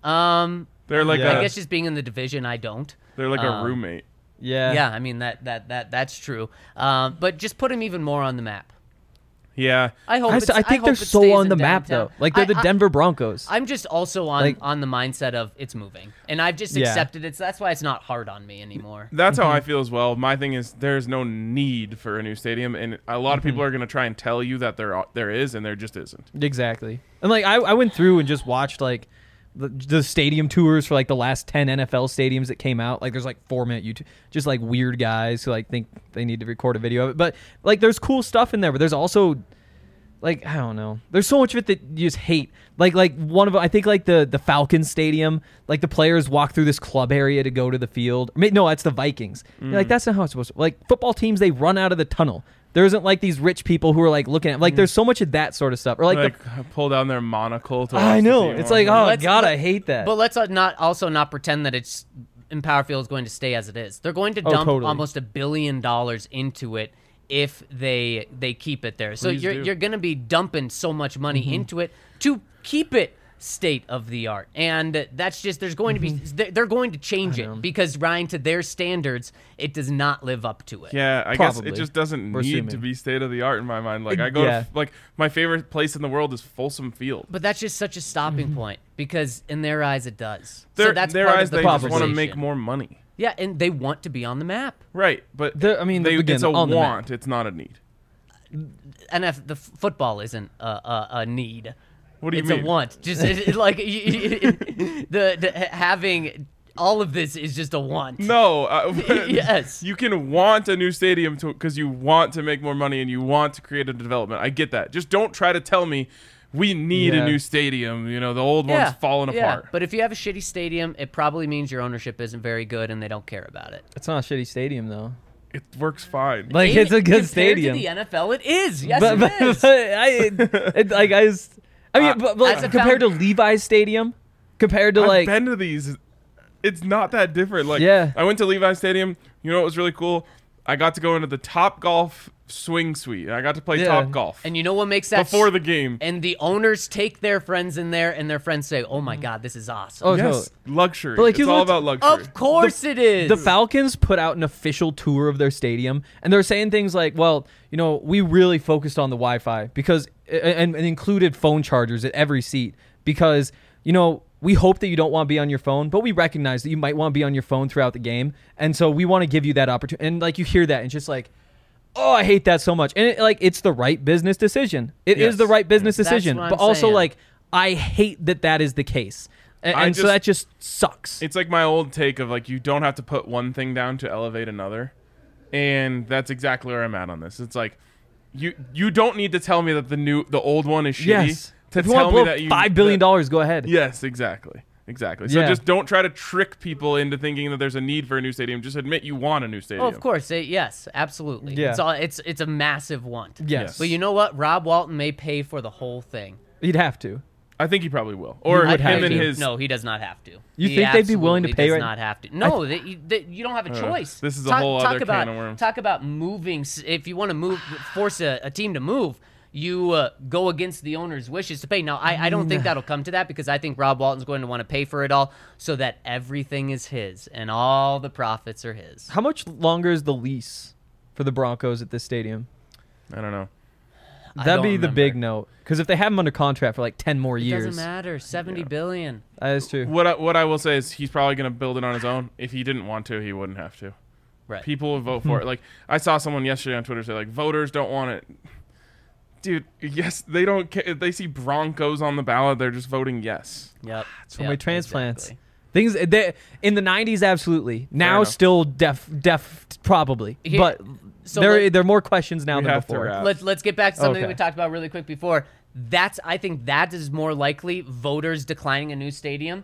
They're like Yeah. I guess just being in the division, I don't. They're like a roommate. Yeah. Yeah, I mean that's true. But just put them even more on the map. Yeah, I hope. I think they're it so stays on in the map downtown. though. Like they're the Denver Broncos. I'm just also on Like- on the mindset of it's moving, and I've just Yeah. accepted it. So that's why it's not hard on me anymore. that's how I feel as well. My thing is there's no need for a new stadium, and a lot of people are going to try and tell you that there is, and there just isn't. Exactly. And like I went through and just watched like the stadium tours for like the last 10 NFL stadiums that came out. Like there's like 4-minute YouTube, just like weird guys who like think they need to record a video of it. But like there's cool stuff in there, but there's also like I don't know. There's so much of it that you just hate. Like one of I think like the Falcons stadium, like the players walk through this club area to go to the field. I mean, no, that's the Vikings. You're like that's not how it's supposed to. Like football teams, they run out of the tunnel. There isn't like these rich people who are like looking at like there's so much of that sort of stuff. Or like pull down their monocle to watch I the know. team It's on. like, oh Let's- god, I hate that. But let's not pretend that it's Empower Field is going to stay as it is. They're going to dump totally. almost $1 billion into it if they keep it there. So Please do. you're going to be dumping so much money into it to keep it state of the art, and that's just there's going to be they're going to change it because Ryan, to their standards, it does not live up to it. Yeah, I guess Probably. it just doesn't We're need assuming. to be state of the art in my mind. Like I go Yeah. to like my favorite place in the world is Folsom Field. But that's just such a stopping point because in their eyes it does. Their, so that's their part eyes, of the they just want to conversation. make more money. Yeah, and they want to be on the map. Right, but I mean, again, it's a on the map. want. It's not a need. The football isn't a need. What do you It's mean? a want. Just like the having all of this is just a want. No. Yes. You can want a new stadium because you want to make more money and you want to create a development. I get that. Just don't try to tell me we need a Yeah. new stadium. You know, the old one's falling apart. But if you have a shitty stadium, it probably means your ownership isn't very good and they don't care about it. It's not a shitty stadium though. It works fine. Like it's a good Compared stadium. to the NFL, it is. Yes, but, it is. but like As a compared to Levi's Stadium, compared to I've like been to these. It's not that different. Like, Yeah. I went to Levi's Stadium. You know what was really cool? I got to go into the Top Golf swing suite. I got to play Yeah. Top Golf And you know what makes that before the game. And the owners take their friends in there, and their friends say, "Oh my God, this is awesome." Oh, Yes, luxury. But, like, it's you all looked- about luxury. Of course it is. The Falcons put out an official tour of their stadium, and they're saying things like, well, you know, we really focused on the Wi-Fi because and included phone chargers at every seat because, you know, we hope that you don't want to be on your phone, but we recognize that you might want to be on your phone throughout the game, and so we want to give you that opportunity. And like you hear that, and it's just like, oh, I hate that so much. And it's the right business decision. It is Yes. the right business That's decision, what I'm but also saying. like I hate that is the case, and so just- that just sucks. It's like my old take of like you don't have to put one thing down to elevate another, and that's exactly where I'm at on this. It's like you don't need to tell me that the old one is shitty. Yes. To If you tell want me to blow that you $5 billion, go ahead. Yes, exactly. So Yeah. just don't try to trick people into thinking that there's a need for a new stadium. Just admit you want a new stadium. Oh, of course. Yes, absolutely. Yeah. It's a massive want. Yes. But you know what? Rob Walton may pay for the whole thing. You'd have to. I think he probably will. Or would have him and to. his. No, he does not have to. You He think they'd be willing to absolutely pay does right- not have to. No, you don't have a choice. this is a whole other can of worms. Talk about moving. If you want to force a team to move, you go against the owner's wishes to pay. Now, I don't think that'll come to that because I think Rob Walton's going to want to pay for it all so that everything is his and all the profits are his. How much longer is the lease for the Broncos at this stadium? I don't know. That'd be don't the big remember. note. Because if they have him under contract for like 10 more It years, doesn't matter. $70 billion. that is true. What I will say is he's probably going to build it on his own. If he didn't want to, he wouldn't have to. Right. People will vote for it. Like I saw someone yesterday on Twitter say like voters don't want it. Dude, yes, they don't care. If they see Broncos on the ballot, they're just voting yes. Yep. So many transplants. Exactly. Things in the 90s, absolutely. Now, enough. still def, probably. Here- but so there are more questions now We than have to before. wrap. Let's get back to something Okay. that we talked about really quick before. I think that is more likely voters declining a new stadium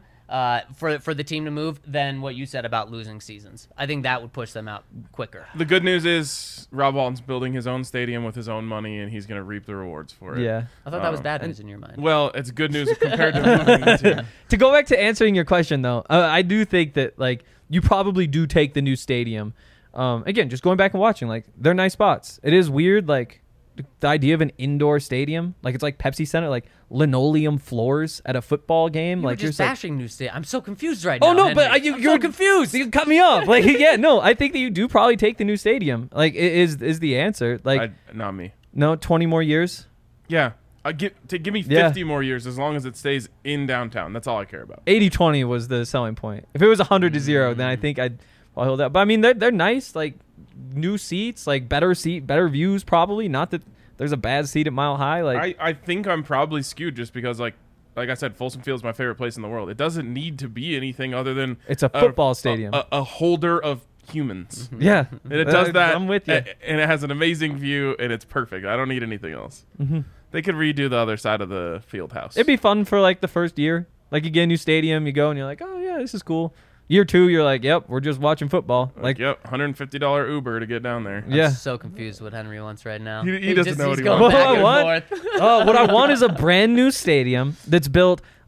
for the team to move than what you said about losing seasons. I think that would push them out quicker. The good news is Rob Walton's building his own stadium with his own money, and he's going to reap the rewards for it. Yeah. I thought that was bad news in your mind. Well, it's good news compared to moving the team. To go back to answering your question, though, I do think that like you probably do take the new stadium. Again, just going back and watching, like they're nice spots. It is weird, like the idea of an indoor stadium, like it's like Pepsi Center, like linoleum floors at a football game. You like were you're just just like, bashing new stadium. I'm so confused right oh now. no, but Henry. you're so confused. You cut me off. Like yeah, no, I think that you do probably take the new stadium. Like it is the answer. Like Not me. no, 20 more years. Yeah. Give me 50 more years as long as it stays in downtown. That's all I care about. 80-20 was the selling point. If it was 100-0, then I think I'll hold that. But I mean, they're nice. Like new seats, like better views. Probably not that there's a bad seat at Mile High. Like I think I'm probably skewed just because like I said, Folsom Field is my favorite place in the world. It doesn't need to be anything other than it's a football stadium. a holder of humans. Yeah, And it does that. I'm with you. And it has an amazing view, and it's perfect. I don't need anything else. Mm-hmm. They could redo the other side of the field house. It'd be fun for like the first year. Like you get a new stadium, you go and you're like, oh yeah, this is cool. Year 2, you're like, yep, we're just watching football. Like yep, $150 Uber to get down there. yeah. I'm so confused what Henry wants right now. He doesn't know what he's he going wants. back What I and forth. Oh, what I want is a brand new stadium that's built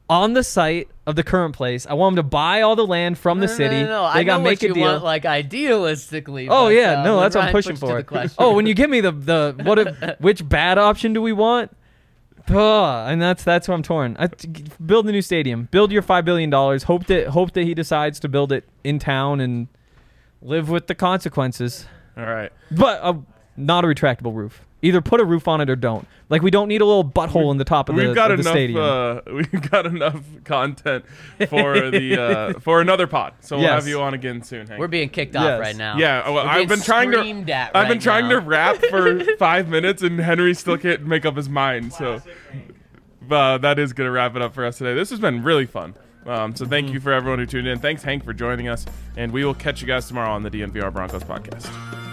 on the site of the current place. I want them to buy all the land from the city. No. They I got know to make what a you deal. want, like idealistically. Oh but, yeah, no, when that's what I'm Ryan pushing puts to for. the question- Oh, when you give me which bad option do we want? And that's where I'm torn. Build a new stadium. Build your $5 billion. Hope that he decides to build it in town and live with the consequences. All right. But not a retractable roof. Either put a roof on it or don't. Like, we don't need a little butthole in the top of the stadium. We've got enough content for the for another pod. So we'll have you on again soon, Hank. We're being kicked off right now. Yeah, well, I've been trying to rap for 5 minutes, and Henry still can't make up his mind. So that is gonna wrap it up for us today. This has been really fun. So thank you for everyone who tuned in. Thanks, Hank, for joining us, and we will catch you guys tomorrow on the DNVR Broncos podcast.